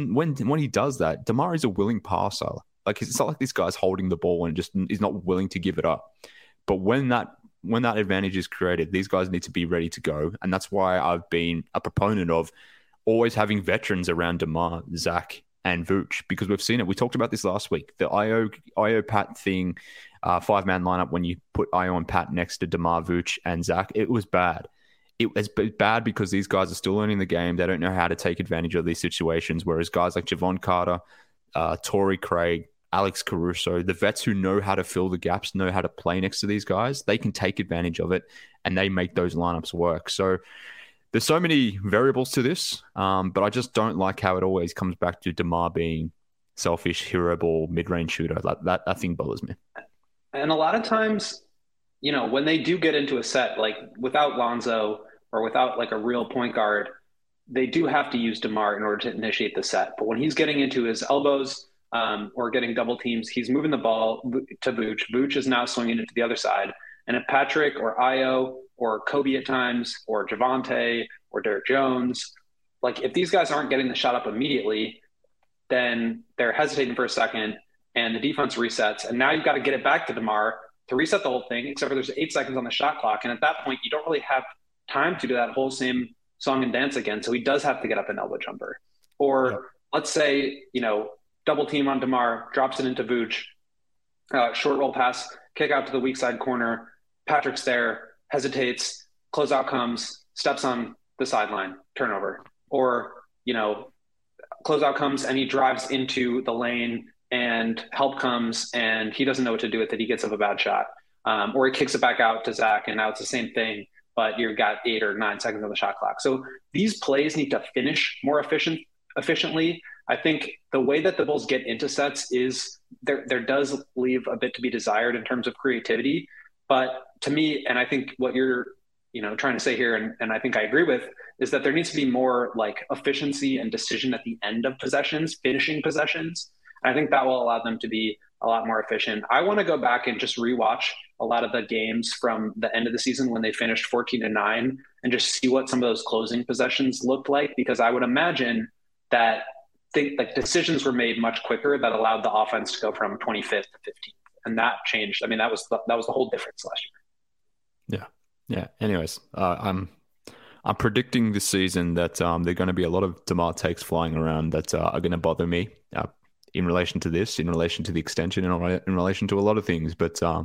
he does that, DeMar is a willing passer. Like, it's not like this guy's holding the ball and just is not willing to give it up. But when that advantage is created, these guys need to be ready to go. And that's why I've been a proponent of always having veterans around DeMar, Zach, and Vooch, because we've seen it. We talked about this last week. The Io Pat thing, 5-man lineup, when you put Io and Pat next to DeMar, Vooch, and Zach, it was bad. It was bad because these guys are still learning the game. They don't know how to take advantage of these situations, whereas guys like Jevon Carter, Torrey Craig, Alex Caruso, the vets who know how to fill the gaps, know how to play next to these guys, they can take advantage of it and they make those lineups work. So there's so many variables to this, but I just don't like how it always comes back to DeMar being selfish, hero ball, mid-range shooter. That thing bothers me. And a lot of times, when they do get into a set, like without Lonzo or without like a real point guard, they do have to use DeMar in order to initiate the set. But when he's getting into his elbows, or getting double teams, he's moving the ball to Vooch. Vooch is now swinging it to the other side. And if Patrick or Io or Kobe at times or Javonte or Derrick Jones, like if these guys aren't getting the shot up immediately, then they're hesitating for a second and the defense resets. And now you've got to get it back to DeMar to reset the whole thing, except for there's 8 seconds on the shot clock. And at that point, you don't really have time to do that whole same song and dance again. So he does have to get up an elbow jumper. Or let's say, double team on DeMar, drops it into Vooch, short roll pass, kick out to the weak side corner. Patrick's there, hesitates, closeout comes, steps on the sideline, turnover. Or, closeout comes and he drives into the lane and help comes and he doesn't know what to do with it. He gets up a bad shot. Or he kicks it back out to Zach and now it's the same thing, but you've got 8 or 9 seconds on the shot clock. So these plays need to finish more efficiently. I think the way that the Bulls get into sets is there does leave a bit to be desired in terms of creativity. But to me, and I think what you're trying to say here, and I think I agree with, is that there needs to be more like efficiency and decision at the end of possessions, finishing possessions. And I think that will allow them to be a lot more efficient. I want to go back and just rewatch a lot of the games from the end of the season when they finished 14-9 and just see what some of those closing possessions looked like, because I would imagine that decisions were made much quicker that allowed the offense to go from 25th to 15th, and that changed. I mean, that was the whole difference last year. Yeah. Anyways, I'm predicting this season that there are going to be a lot of DeMar takes flying around that are going to bother me in relation to this, in relation to the extension, in relation to a lot of things. But I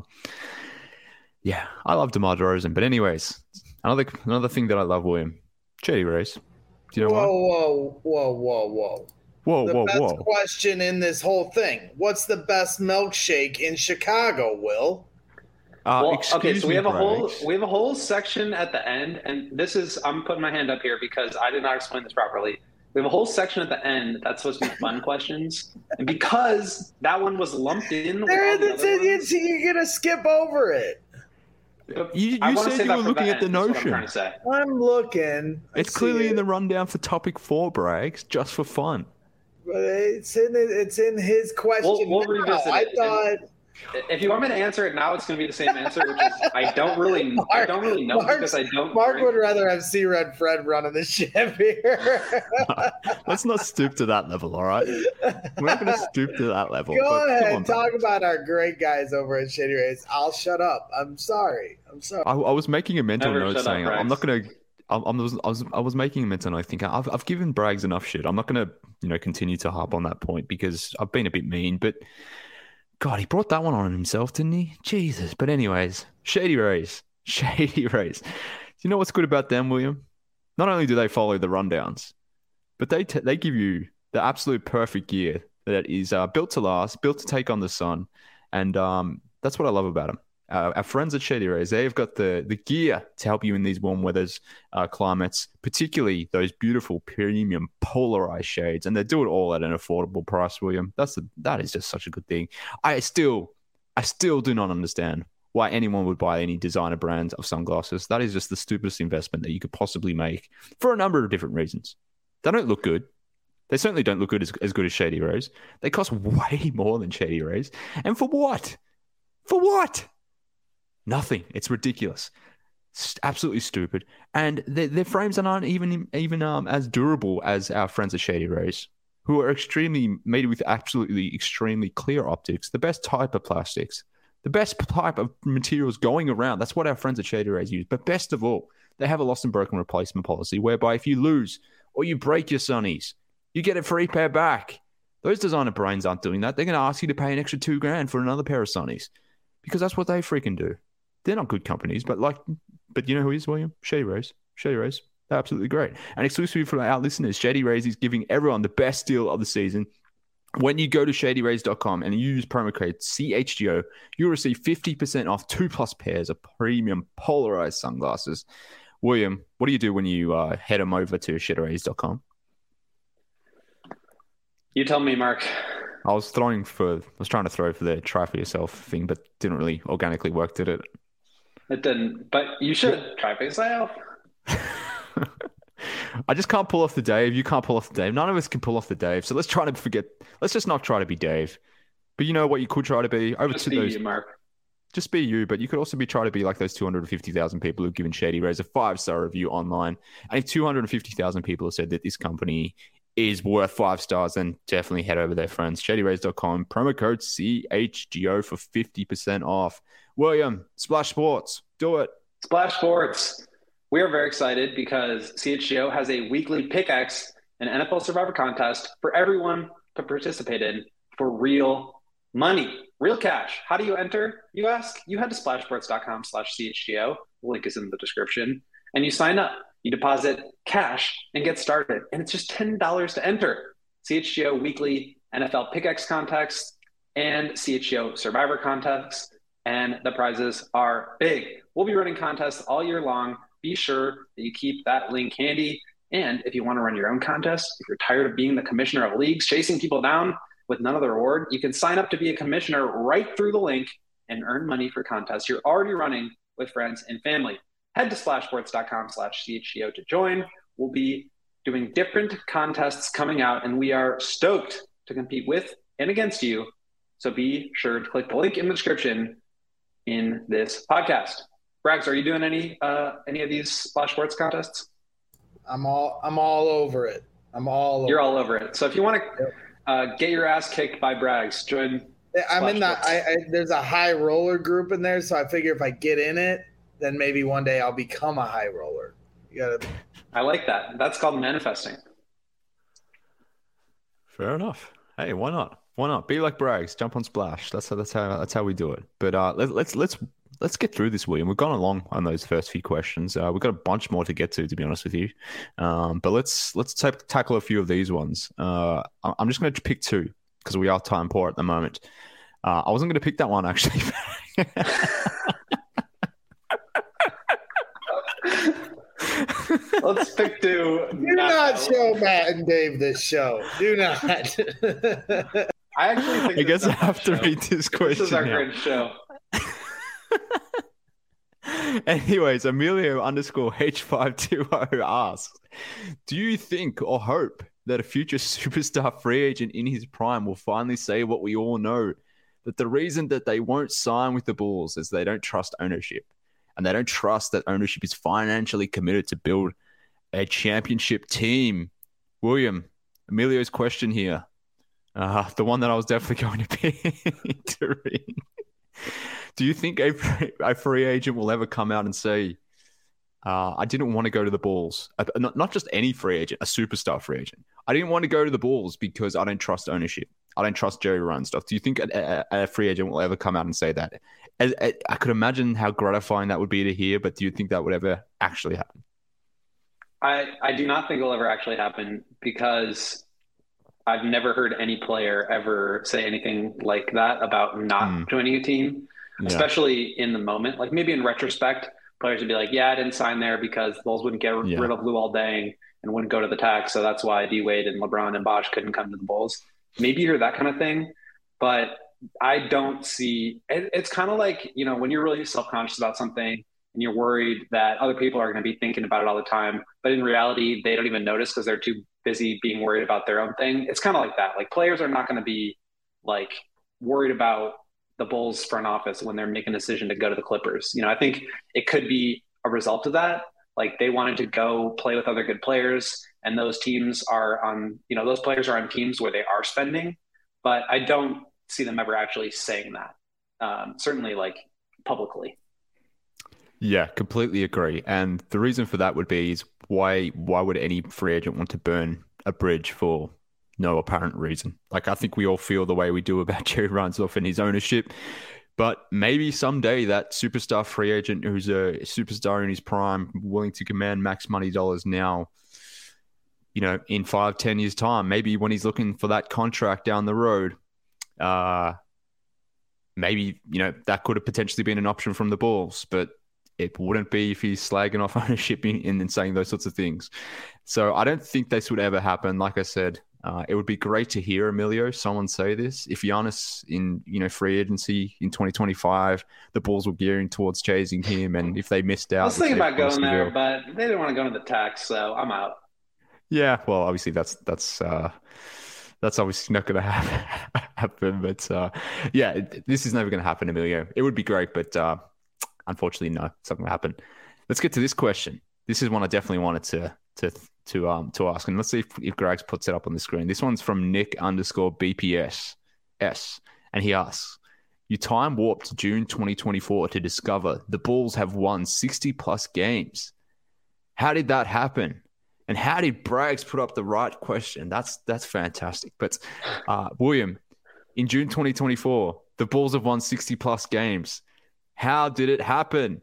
love DeMar DeRozan. But anyways, another thing that I love, William, Chetty Race. Do you know Whoa. The best question in this whole thing. What's the best milkshake in Chicago, Will? Okay, so we have a whole section at the end, and I'm putting my hand up here because I did not explain this properly. We have a whole section at the end that's supposed to be fun questions, and because that one was lumped in, you're gonna skip over it. You said you were looking at the Notion. I'm looking. It's clearly in the rundown for topic 4, Braggs, just for fun. But it's in his question. We'll revisit it. If you want me to answer it now, it's going to be the same answer, which is I don't really know because I don't. Mark would rather have C Red Fred running the ship here. Let's not stoop to that level, all right? We're not going to stoop to that level. Go ahead, talk about our great guys over at Shady Rays. I'll shut up. I'm sorry. I was making a mental note saying I'm not going to. I was making a mental note thinking I've given Braggs enough shit. I'm not going to continue to harp on that point because I've been a bit mean, but. God, he brought that one on himself, didn't he? Jesus. But anyways, Shady Rays. Shady Rays. Do you know what's good about them, William? Not only do they follow the rundowns, but they give you the absolute perfect gear that is built to last, built to take on the sun. And that's what I love about them. Our friends at Shady Rays, they've got the gear to help you in these warm weathers, climates, particularly those beautiful premium polarized shades. And they do it all at an affordable price, William. That is just such a good thing. I still do not understand why anyone would buy any designer brand of sunglasses. That is just the stupidest investment that you could possibly make for a number of different reasons. They don't look good. They certainly don't look good as good as Shady Rays. They cost way more than Shady Rays. And for what? For what? Nothing. It's ridiculous. It's absolutely stupid. And their frames aren't even as durable as our friends at Shady Rays, who are made with absolutely extremely clear optics, the best type of plastics, the best type of materials going around. That's what our friends at Shady Rays use. But best of all, they have a lost and broken replacement policy whereby if you lose or you break your sunnies, you get a free pair back. Those designer brands aren't doing that. They're going to ask you to pay an extra $2,000 for another pair of sunnies because that's what they freaking do. They're not good companies, but you know who is, William? Shady Rays. Shady Rays. They're absolutely great. And exclusively for our listeners, Shady Rays is giving everyone the best deal of the season. When you go to shadyrays.com and you use promo code CHGO, you'll receive 50% off 2+ pairs of premium polarized sunglasses. William, what do you do when you head them over to shadyrays.com? You tell me, Mark. I was trying to throw for the try for yourself thing, but didn't really organically work, did it? It didn't, but you should try for yourself. I just can't pull off the Dave. You can't pull off the Dave. None of us can pull off the Dave. So let's just not try to be Dave. But you know what you could try to be? Just be you, Mark. Just be you, but you could also try to be like those 250,000 people who've given Shady Rays a 5-star review online. And if 250,000 people have said that this company is worth 5 stars, then definitely head over there, friends. ShadyRays.com, promo code CHGO for 50% off. William, Splash Sports, do it. Splash Sports. We are very excited because CHGO has a weekly pickaxe and NFL Survivor contest for everyone to participate in for real money, real cash. How do you enter, you ask? You head to splashsports.com/CHGO. The link is in the description. And you sign up. You deposit cash and get started. And it's just $10 to enter. CHGO weekly NFL pickaxe contests and CHGO Survivor contests. And the prizes are big. We'll be running contests all year long. Be sure that you keep that link handy. And if you want to run your own contest, if you're tired of being the commissioner of leagues, chasing people down with none of the reward, you can sign up to be a commissioner right through the link and earn money for contests you're already running with friends and family. Head to splashsports.com/CHGO to join. We'll be doing different contests coming out, and we are stoked to compete with and against you. So be sure to click the link in the description in this podcast. Braggs, are you doing any of these Splash Sports contests? I'm all over it. You're all over it. So if you want to get your ass kicked by Braggs, join. I'm in there's a high roller group in there, so I figure if I get in it, then maybe one day I'll become a high roller. I like that. That's called manifesting. Fair enough. Hey, why not? Why not? Be like Braggs. Jump on Splash. That's how we do it. But let's get through this, William. We've gone along on those first few questions. We've got a bunch more to get to be honest with you. But let's tackle a few of these ones. I'm just going to pick two because we are time poor at the moment. I wasn't going to pick that one actually. Let's pick two. Do not show Matt and Dave this show. Do not. I actually think I guess I have to read this question. This is our great show. Anyways, Emilio_H520 asks, do you think or hope that a future superstar free agent in his prime will finally say what we all know? that the reason that they won't sign with the Bulls is they don't trust ownership. And they don't trust that ownership is financially committed to build a championship team. William, Emilio's question here, the one that I was definitely going to be entering. Do you think a free agent will ever come out and say, I didn't want to go to the Bulls? Not just any free agent, a superstar free agent. I didn't want to go to the Bulls because I don't trust ownership. I don't trust Jerry Reinsdorf. Do you think a free agent will ever come out and say that? I could imagine how gratifying that would be to hear, but do you think that would ever actually happen? I do not think it'll ever actually happen because I've never heard any player ever say anything like that about not joining a team, especially in the moment. Like maybe in retrospect, players would be like, yeah, I didn't sign there because the Bulls wouldn't get rid of Luol Deng and wouldn't go to the tax. So that's why D-Wade and LeBron and Bosh couldn't come to the Bulls. Maybe you hear that kind of thing, but I don't see it. It's kind of like, you know, when you're really self-conscious about something and you're worried that other people are going to be thinking about it all the time, but in reality, they don't even notice because they're too busy being worried about their own thing. It's kind of like that. Like players are not going to be like worried about the Bulls front office when they're making a decision to go to the Clippers. You know, I think it could be a result of that. Like they wanted to go play with other good players, and those teams are on, you know, those players are on teams where they are spending, but I don't see them ever actually saying that. Certainly like publicly. Yeah, completely agree. And the reason for that would be is why would any free agent want to burn a bridge for no apparent reason? Like I think we all feel the way we do about Jerry Reinsdorf and his ownership. But maybe someday that superstar free agent who's a superstar in his prime, willing to command max money dollars now, you know, in 5-10 years time, maybe when he's looking for that contract down the road, maybe, you know, that could have potentially been an option from the Bulls, but it wouldn't be if he's slagging off ownership and saying those sorts of things. So I don't think this would ever happen. Like I said, it would be great to hear, Emilio, someone say this. If Giannis in, you know, free agency in 2025, the Bulls were gearing towards chasing him, and if they missed out, I was thinking about going there, but they didn't want to go into the tax, so I'm out. Yeah, well, obviously that's obviously not going to happen. But yeah, this is never going to happen, Emilio. It would be great, but unfortunately, no, it's not going to happen. Let's get to this question. This is one I definitely wanted to ask, and let's see if Grags puts it up on the screen. This one's from Nick_BPS S, and he asks, "You time warped to June 2024 to discover the Bulls have won 60+ games. How did that happen? And how did Braggs put up the right question?" That's fantastic. But William, in June 2024, the Bulls have won 60+ games. How did it happen?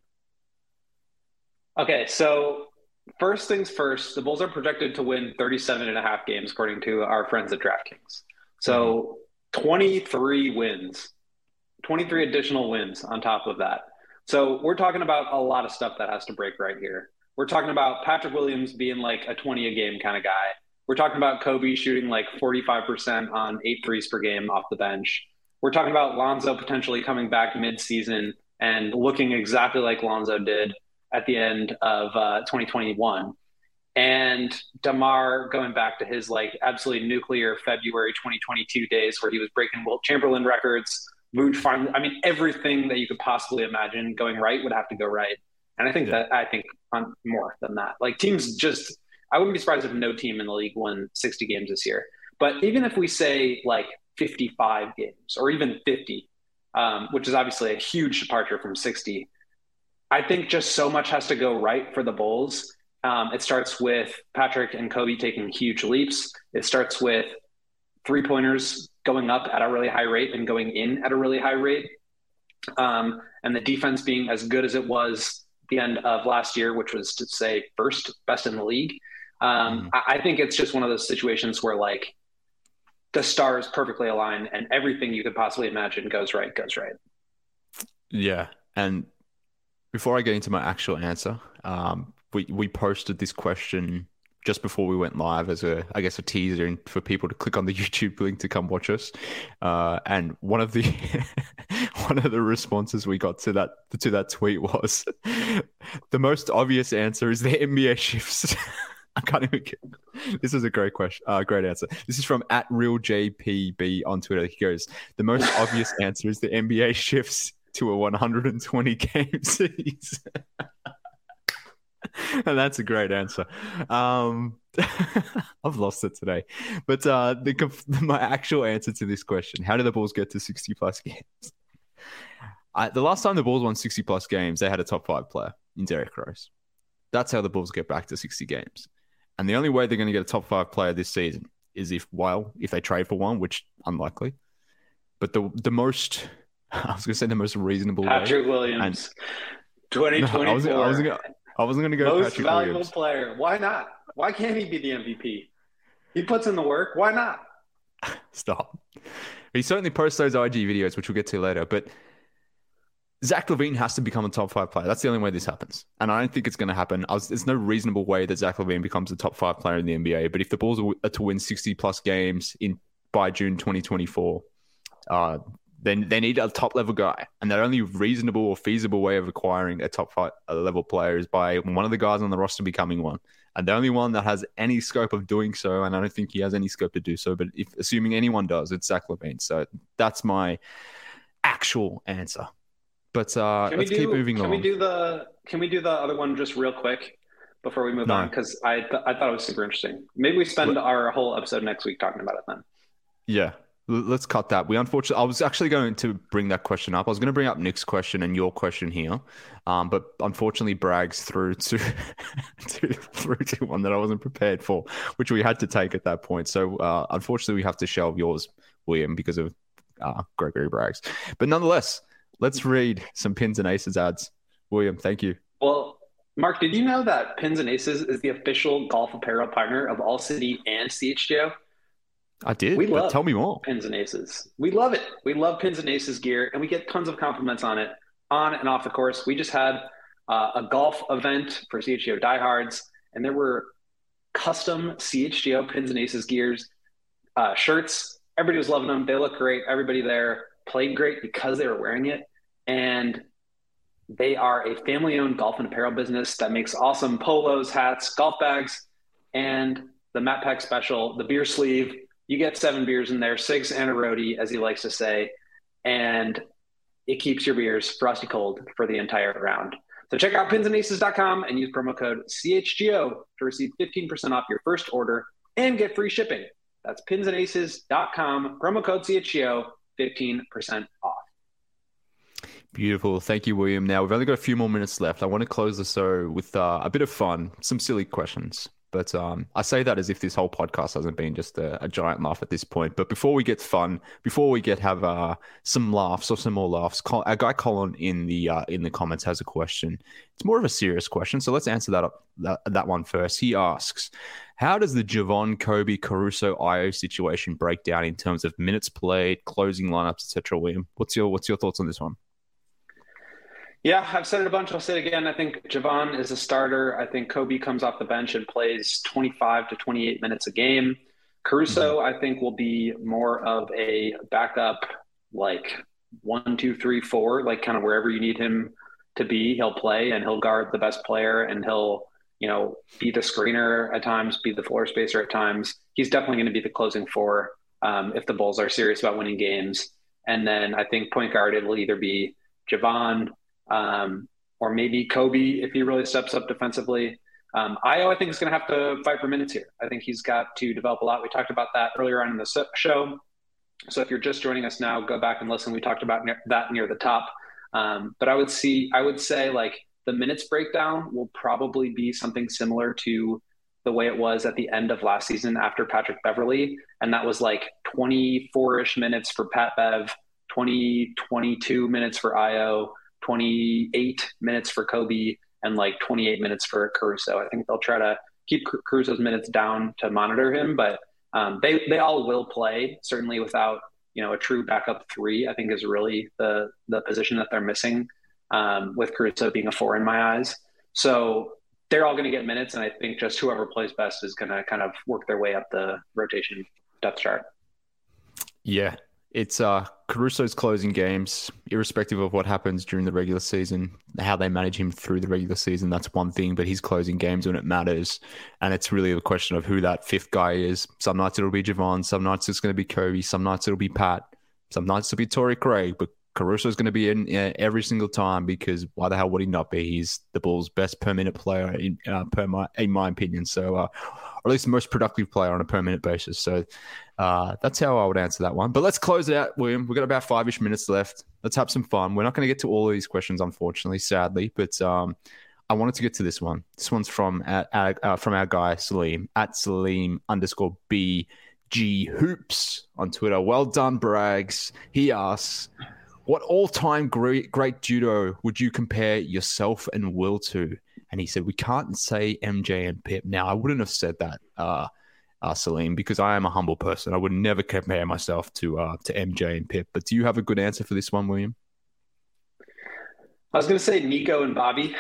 Okay, so first things first, the Bulls are projected to win 37.5 games, according to our friends at DraftKings. So 23 wins, 23 additional wins on top of that. So we're talking about a lot of stuff that has to break right here. We're talking about Patrick Williams being like a 20-a-game kind of guy. We're talking about Kobe shooting like 45% on 8 threes per game off the bench. We're talking about Lonzo potentially coming back mid-season and looking exactly like Lonzo did at the end of 2021. And DeMar going back to his like absolutely nuclear February 2022 days where he was breaking Wilt Chamberlain records. Vooch finally, I mean, everything that you could possibly imagine going right would have to go right. And I think I think on more than that, like teams just, I wouldn't be surprised if no team in the league won 60 games this year. But even if we say like 55 games or even 50, which is obviously a huge departure from 60, I think just so much has to go right for the Bulls. It starts with Patrick and Kobe taking huge leaps. It starts with 3-pointers going up at a really high rate and going in at a really high rate. And the defense being as good as it was the end of last year, which was to say first best in the league. I think it's just one of those situations where like the stars perfectly align and everything you could possibly imagine goes right. Yeah. And before I get into my actual answer, we posted this question just before we went live as a teaser for people to click on the YouTube link to come watch us. And one of the responses we got to that tweet was, the most obvious answer is the NBA shifts. I can't even get... This is a great question. Great answer. This is from @RealJPB on Twitter. He goes, the most obvious answer is the NBA shifts to a 120 game season. And that's a great answer. I've lost it today. But my actual answer to this question, how did the Bulls get to 60 plus games? The last time the Bulls won 60 plus games, they had a top 5 player in Derrick Rose. That's how the Bulls get back to 60 games. And the only way they're going to get a top 5 player this season is if they trade for one, which unlikely. But the most, I was going to say the most reasonable Patrick Williams, 2024. No, I wasn't going to go most Patrick valuable Williams. Player. Why not? Why can't he be the MVP? He puts in the work. Why not? Stop. He certainly posts those IG videos, which we'll get to later. But Zach LaVine has to become a top 5 player. That's the only way this happens. And I don't think it's going to happen. There's no reasonable way that Zach LaVine becomes a top 5 player in the NBA. But if the Bulls are to win 60 plus games by June 2024, then they need a top level guy. And the only reasonable or feasible way of acquiring a top 5 level player is by one of the guys on the roster becoming one. And the only one that has any scope of doing so, and I don't think he has any scope to do so, but assuming anyone does, it's Zach LaVine. So that's my actual answer. But let's keep moving on. Can we do the other one just real quick before we move on? Because I thought it was super interesting. Maybe we spend our whole episode next week talking about it then. Yeah. Let's cut that. I was actually going to bring that question up. I was going to bring up Nick's question and your question here, but unfortunately, Braggs threw to one that I wasn't prepared for, which we had to take at that point. So unfortunately, we have to shelve yours, William, because of Gregory Braggs. But nonetheless, let's read some Pins and Aces ads. William, thank you. Well, Mark, did you know that Pins and Aces is the official golf apparel partner of All City and CHGO? I did, but tell me more. Pins and Aces. We love it. We love Pins and Aces gear, and we get tons of compliments on it, on and off the course. We just had a golf event for CHGO diehards, and there were custom CHGO Pins and Aces gears, shirts. Everybody was loving them. They look great. Everybody there played great because they were wearing it. And they are a family-owned golf and apparel business that makes awesome polos, hats, golf bags, and the Matt Peck special, the beer sleeve. You get 7 beers in there, 6 and a roadie, as he likes to say, and it keeps your beers frosty cold for the entire round. So check out pinsandaces.com and use promo code CHGO to receive 15% off your first order and get free shipping. That's pinsandaces.com, promo code CHGO, 15% off. Beautiful. Thank you, William. Now, we've only got a few more minutes left. I want to close the show with a bit of fun, some silly questions. But I say that as if this whole podcast hasn't been just a giant laugh at this point. But before we get fun, before we have some laughs or some more laughs, our guy Colin in the comments has a question. It's more of a serious question, so let's answer that one first. He asks, how does the Javon, Kobe, Caruso, Ayo situation break down in terms of minutes played, closing lineups, etc.? William, what's your thoughts on this one? Yeah, I've said it a bunch. I'll say it again. I think Javon is a starter. I think Kobe comes off the bench and plays 25 to 28 minutes a game. Caruso, I think, will be more of a backup, like 1, 2, 3, 4, like kind of wherever you need him to be, he'll play and he'll guard the best player and he'll, be the screener at times, be the floor spacer at times. He's definitely going to be the closing 4 if the Bulls are serious about winning games. And then I think point guard, it will either be Javon, or maybe Kobe if he really steps up defensively. Ayo, I think, is going to have to fight for minutes here. I think he's got to develop a lot. We talked about that earlier on in the show. So if you're just joining us now, go back and listen. We talked about that near the top. But I would say like the minutes breakdown will probably be something similar to the way it was at the end of last season after Patrick Beverley. And that was like 24-ish minutes for Pat Bev, 22 minutes for Ayo, 28 minutes for Kobe, and like 28 minutes for Caruso. I think they'll try to keep Caruso's minutes down to monitor him, but they all will play, certainly without, a true backup 3, I think is really the position that they're missing, with Caruso being a 4 in my eyes. So they're all going to get minutes, and I think just whoever plays best is going to kind of work their way up the rotation depth chart. Yeah. It's Caruso's closing games, irrespective of what happens during the regular season, how they manage him through the regular season, that's one thing, but he's closing games when it matters. And it's really a question of who that fifth guy is. Some nights it'll be Javon, some nights it's going to be Kobe, some nights it'll be Pat, some nights it'll be Torrey Craig, but Caruso's going to be in every single time because why the hell would he not be? He's the Bulls' best per minute player in my opinion. So, or at least the most productive player on a per minute basis. So that's how I would answer that one. But let's close it out, William. We've got about 5-ish minutes left. Let's have some fun. We're not going to get to all of these questions, unfortunately, sadly. But I wanted to get to this one. This one's from our guy, Salim, at Salim_BG Hoops on Twitter. Well done, Brags. He asks, what all-time great judo would you compare yourself and Will to? And he said, we can't say MJ and Pip. Now, I wouldn't have said that, Salim, because I am a humble person. I would never compare myself to MJ and Pip. But do you have a good answer for this one, William? I was going to say Nico and Bobby.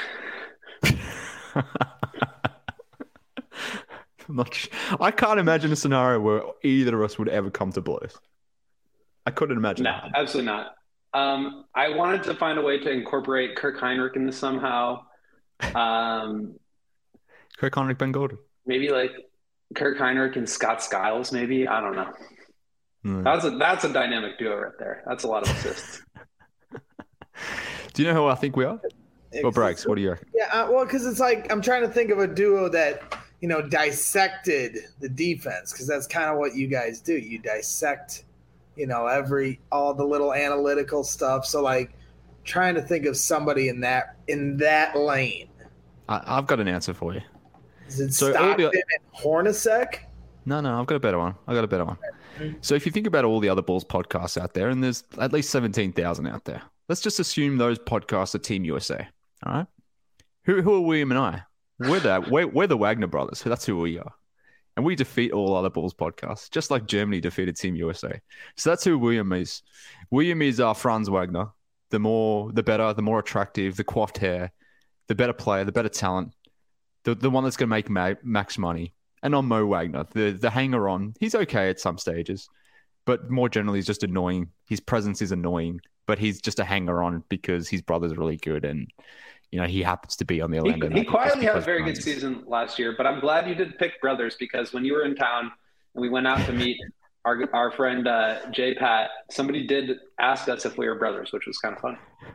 I can't imagine a scenario where either of us would ever come to blows. I couldn't imagine. No, absolutely not. I wanted to find a way to incorporate Kirk Heinrich in this somehow. Kirk Heinrich, Ben Golden. Maybe like Kirk Heinrich and Scott Skiles, maybe. I don't know. That's a dynamic duo right there. That's a lot of assists. Do you know who I think we are? Well, Brags, what do you reckon? Yeah, well, because it's like I'm trying to think of a duo that, dissected the defense, because that's kind of what you guys do. You dissect all the little analytical stuff. So like trying to think of somebody in that lane. I've got an answer for you. Is it Stockton and Hornacek? No, I've got a better one. So if you think about all the other Bulls podcasts out there, and there's at least 17,000 out there, let's just assume those podcasts are Team USA. All right. Who are William and I? We're the Wagner brothers. That's who we are. And we defeat all other Bulls podcasts, just like Germany defeated Team USA. So that's who William is. William is Franz Wagner. The better, the more attractive, the coiffed hair, the better player, the better talent, the one that's going to make max money. And on Mo Wagner, the hanger-on. He's okay at some stages, but more generally, he's just annoying. His presence is annoying, but he's just a hanger-on because his brother's really good and he happens to be on the Orlando. He quietly had a very good season last year, but I'm glad you did pick brothers because when you were in town and we went out to meet our friend Jay Pat, somebody did ask us if we were brothers, which was kind of funny.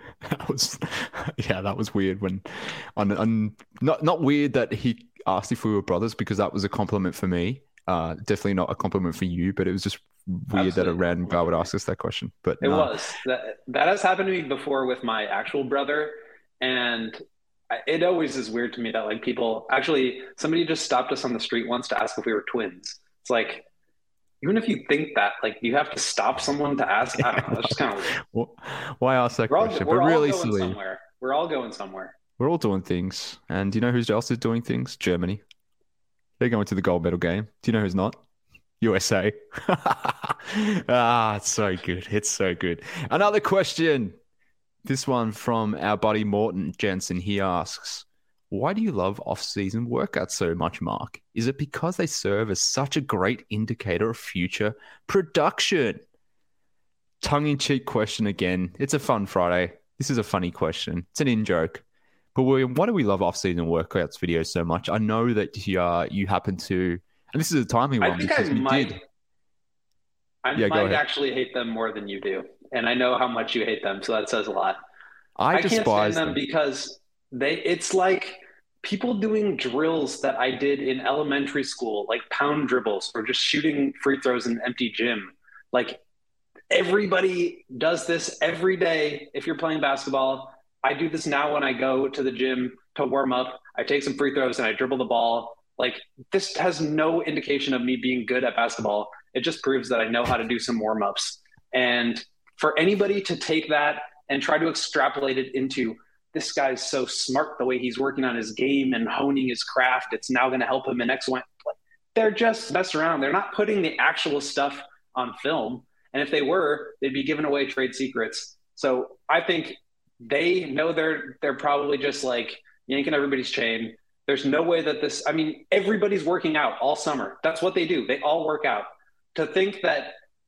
That was weird. When not weird that he asked if we were brothers because that was a compliment for me. Definitely not a compliment for you, but it was just weird that a random guy would ask us that question. But it was that has happened to me before with my actual brother. And it always is weird to me that like people actually somebody just stopped us on the street once to ask if we were twins. It's like, even if you think that, like you have to stop someone to ask. I don't know. It's just kind of weird. Why ask that question? We're really silly. We're all going somewhere. We're all doing things. And do you know who else is doing things? Germany. They're going to the gold medal game. Do you know who's not? USA. It's so good. It's so good. Another question. This one from our buddy Morton Jensen. He asks, why do you love off-season workouts so much, Mark? Is it because they serve as such a great indicator of future production? Tongue-in-cheek question again. It's a fun Friday. This is a funny question. It's an in-joke. But William, why do we love off-season workouts videos so much? I know that you happen to, and this is a timely one. I might actually hate them more than you do. And I know how much you hate them, so that says a lot. I can't stand them because it's like people doing drills that I did in elementary school, like pound dribbles or just shooting free throws in an empty gym. Like everybody does this every day. If you're playing basketball, I do this now when I go to the gym to warm up. I take some free throws and I dribble the ball. Like this has no indication of me being good at basketball. It just proves that I know how to do some warm-ups. And for anybody to take that and try to extrapolate it into this guy's so smart the way he's working on his game and honing his craft, it's now going to help him in X, Y. They're just messing around. They're not putting the actual stuff on film. And if they were, they'd be giving away trade secrets. So I think they know they're probably just like yanking everybody's chain. There's no way that everybody's working out all summer. That's what they do. They all work out. To think that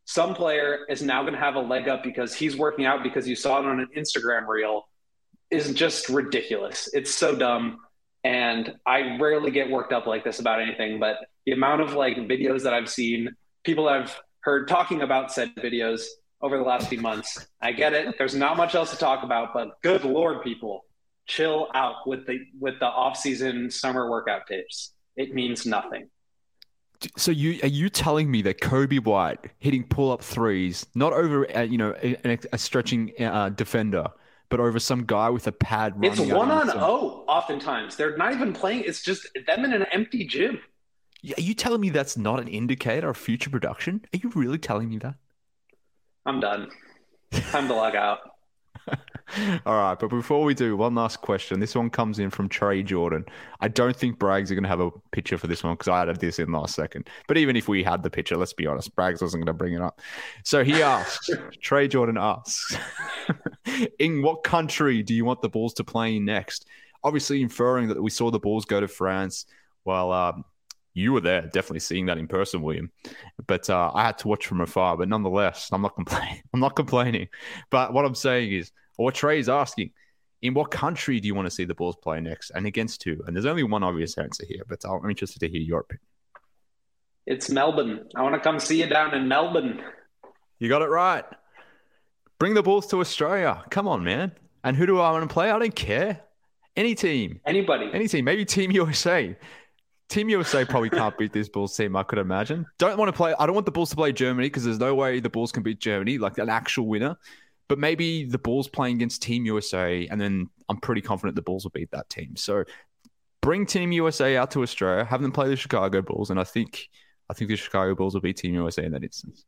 some player is now going to have a leg up because he's working out because you saw it on an Instagram reel is just ridiculous. It's so dumb. And I rarely get worked up like this about anything, but the amount of like videos that I've seen, people I've heard talking about said videos over the last few months. I get it. There's not much else to talk about, but good Lord, people, chill out with the off-season summer workout tapes. It means nothing. So are you telling me that Kobe White hitting pull-up threes, not over a stretching defender, but over some guy with a pad running? It's 1-on-0 oftentimes. They're not even playing. It's just them in an empty gym. Are you telling me that's not an indicator of future production? Are you really telling me that? I'm done. Time to log out. All right, but before we do, one last question. This one comes in from Trey Jordan. I don't think Braggs are going to have a picture for this one because I added this in last second. But even if we had the picture, let's be honest, Braggs wasn't going to bring it up. So he asks, Trey Jordan asks, in what country do you want the Bulls to play in next? Obviously inferring that we saw the Bulls go to France. Well, you were there, definitely seeing that in person, William. But I had to watch from afar. But nonetheless, I'm not complaining. But what I'm saying is, or what Trey's asking, in what country do you want to see the Bulls play next and against who? And there's only one obvious answer here, but I'm interested to hear your opinion. It's Melbourne. I want to come see you down in Melbourne. You got it right. Bring the Bulls to Australia. Come on, man. And who do I want to play? I don't care. Any team. Anybody. Any team. Maybe Team USA. Team USA probably can't beat this Bulls team, I could imagine. I don't want the Bulls to play Germany because there's no way the Bulls can beat Germany, like an actual winner. But maybe the Bulls playing against Team USA, and then I'm pretty confident the Bulls will beat that team. So bring Team USA out to Australia, have them play the Chicago Bulls, and I think the Chicago Bulls will beat Team USA in that instance.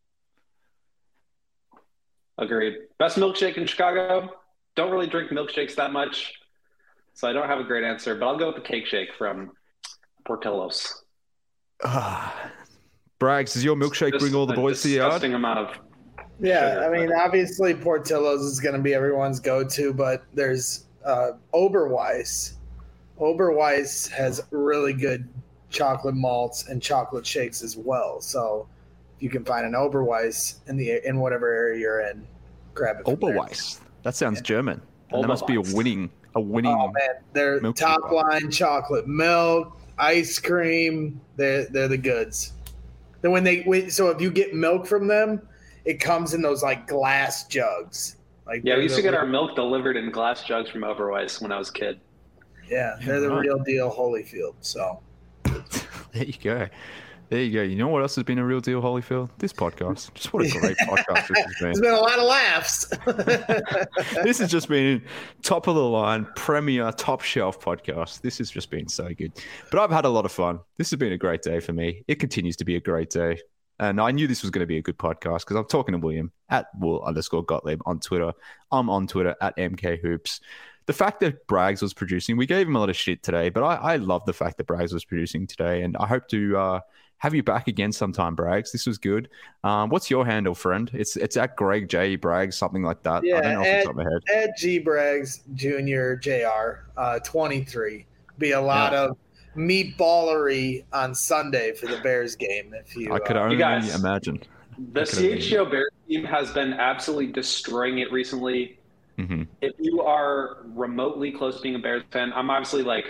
Agreed. Best milkshake in Chicago. Don't really drink milkshakes that much, so I don't have a great answer, but I'll go with the cake shake from Portillo's. Braggs, does your milkshake bring all the boys to the yard? Disgusting amount of Yeah, sugar, I mean, obviously Portillo's is going to be everyone's go-to, but there's Oberweis. Oberweis has really good chocolate malts and chocolate shakes as well. So if you can find an Oberweis in whatever area you're in, grab it. Oberweis. That sounds German. And that must be a winning. Oh man, they're top line chocolate milk, ice cream. They're the goods. Then so if you get milk from them, it comes in those like glass jugs. Like we used to get our milk delivered in glass jugs from Oberweis when I was a kid. Yeah, they're the real deal Holyfield. So there you go. There you go. You know what else has been a real deal, Holyfield? This podcast. Just what a great podcast this has been. There's been a lot of laughs. This has just been top of the line, premier, top shelf podcast. This has just been so good. But I've had a lot of fun. This has been a great day for me. It continues to be a great day. And I knew this was going to be a good podcast because I'm talking to William at Wool_Gottlieb on Twitter. I'm on Twitter at MKHoops. The fact that Braggs was producing, we gave him a lot of shit today, but I love the fact that Braggs was producing today. And I hope to have you back again sometime, Braggs. This was good. What's your handle, friend? It's at Greg J. Braggs, something like that. Yeah, I don't know off the top of my head. Ed G. Braggs Jr. Jr. 23. Be a lot of meatballery on Sunday for the Bears game. I could only imagine. The CHGO Bears team has been absolutely destroying it recently. Mm-hmm. If you are remotely close to being a Bears fan, I'm obviously like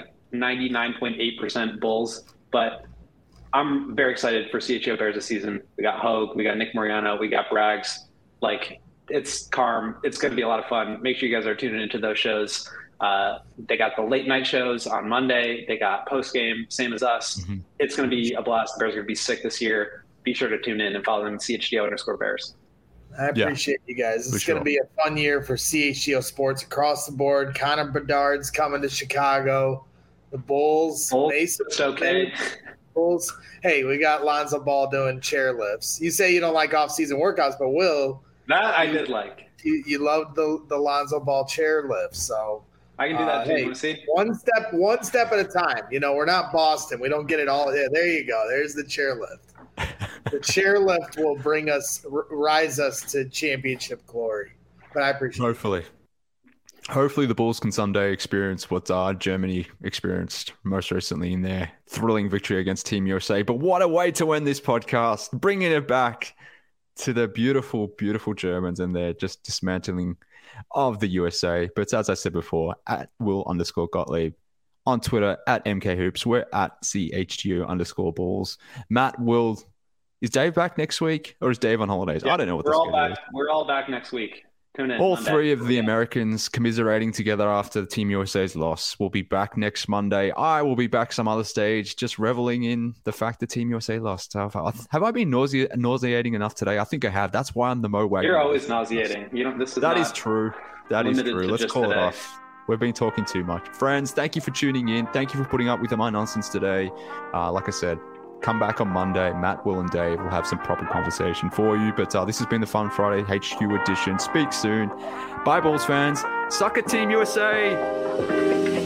99.8% Bulls, but I'm very excited for CHGO Bears this season. We got Hogue, we got Nick Mariano, we got Braggs. Like, it's calm. It's going to be a lot of fun. Make sure you guys are tuning into those shows. They got the late night shows on Monday. They got post game, same as us. Mm-hmm. It's going to be a blast. The Bears are going to be sick this year. Be sure to tune in and follow them at CHGO_Bears. I appreciate you guys. It's going to be a fun year for CHGO sports across the board. Connor Bedard's coming to Chicago. The Bulls. It's okay. Bulls. Hey, we got Lonzo Ball doing chairlifts. You say you don't like off-season workouts, but that I did like. You love the Lonzo Ball chairlift, so I can do that too. You want to see? One step at a time. You know, we're not Boston. We don't get it all. Yeah, there you go. There's the chairlift. The chairlift will rise us to championship glory. But I appreciate it. Hopefully the Bulls can someday experience what Germany experienced most recently in their thrilling victory against Team USA. But what a way to end this podcast. Bringing it back to the beautiful, beautiful Germans and their just dismantling of the USA. But as I said before, at Will_Gottlieb on Twitter, at MKHoops, we're at CHGO_balls. Matt, Will, is Dave back next week or is Dave on holidays? Yeah, I don't know what the schedule is. We're all back next week. Tune in. All three of the Americans commiserating together after the Team USA's loss. We'll be back next Monday. I will be back some other stage, just reveling in the fact that Team USA lost. Have I been nauseating enough today? I think I have. That's why I'm the Mo Wagner. You're always nauseating. That is true. That is true. Let's call it off. We've been talking too much. Friends, thank you for tuning in. Thank you for putting up with my nonsense today. Like I said, come back on Monday. Matt, Will, and Dave will have some proper conversation for you. But this has been the Fun Friday HQ edition. Speak soon. Bye, Bulls fans. Suck it, Team USA.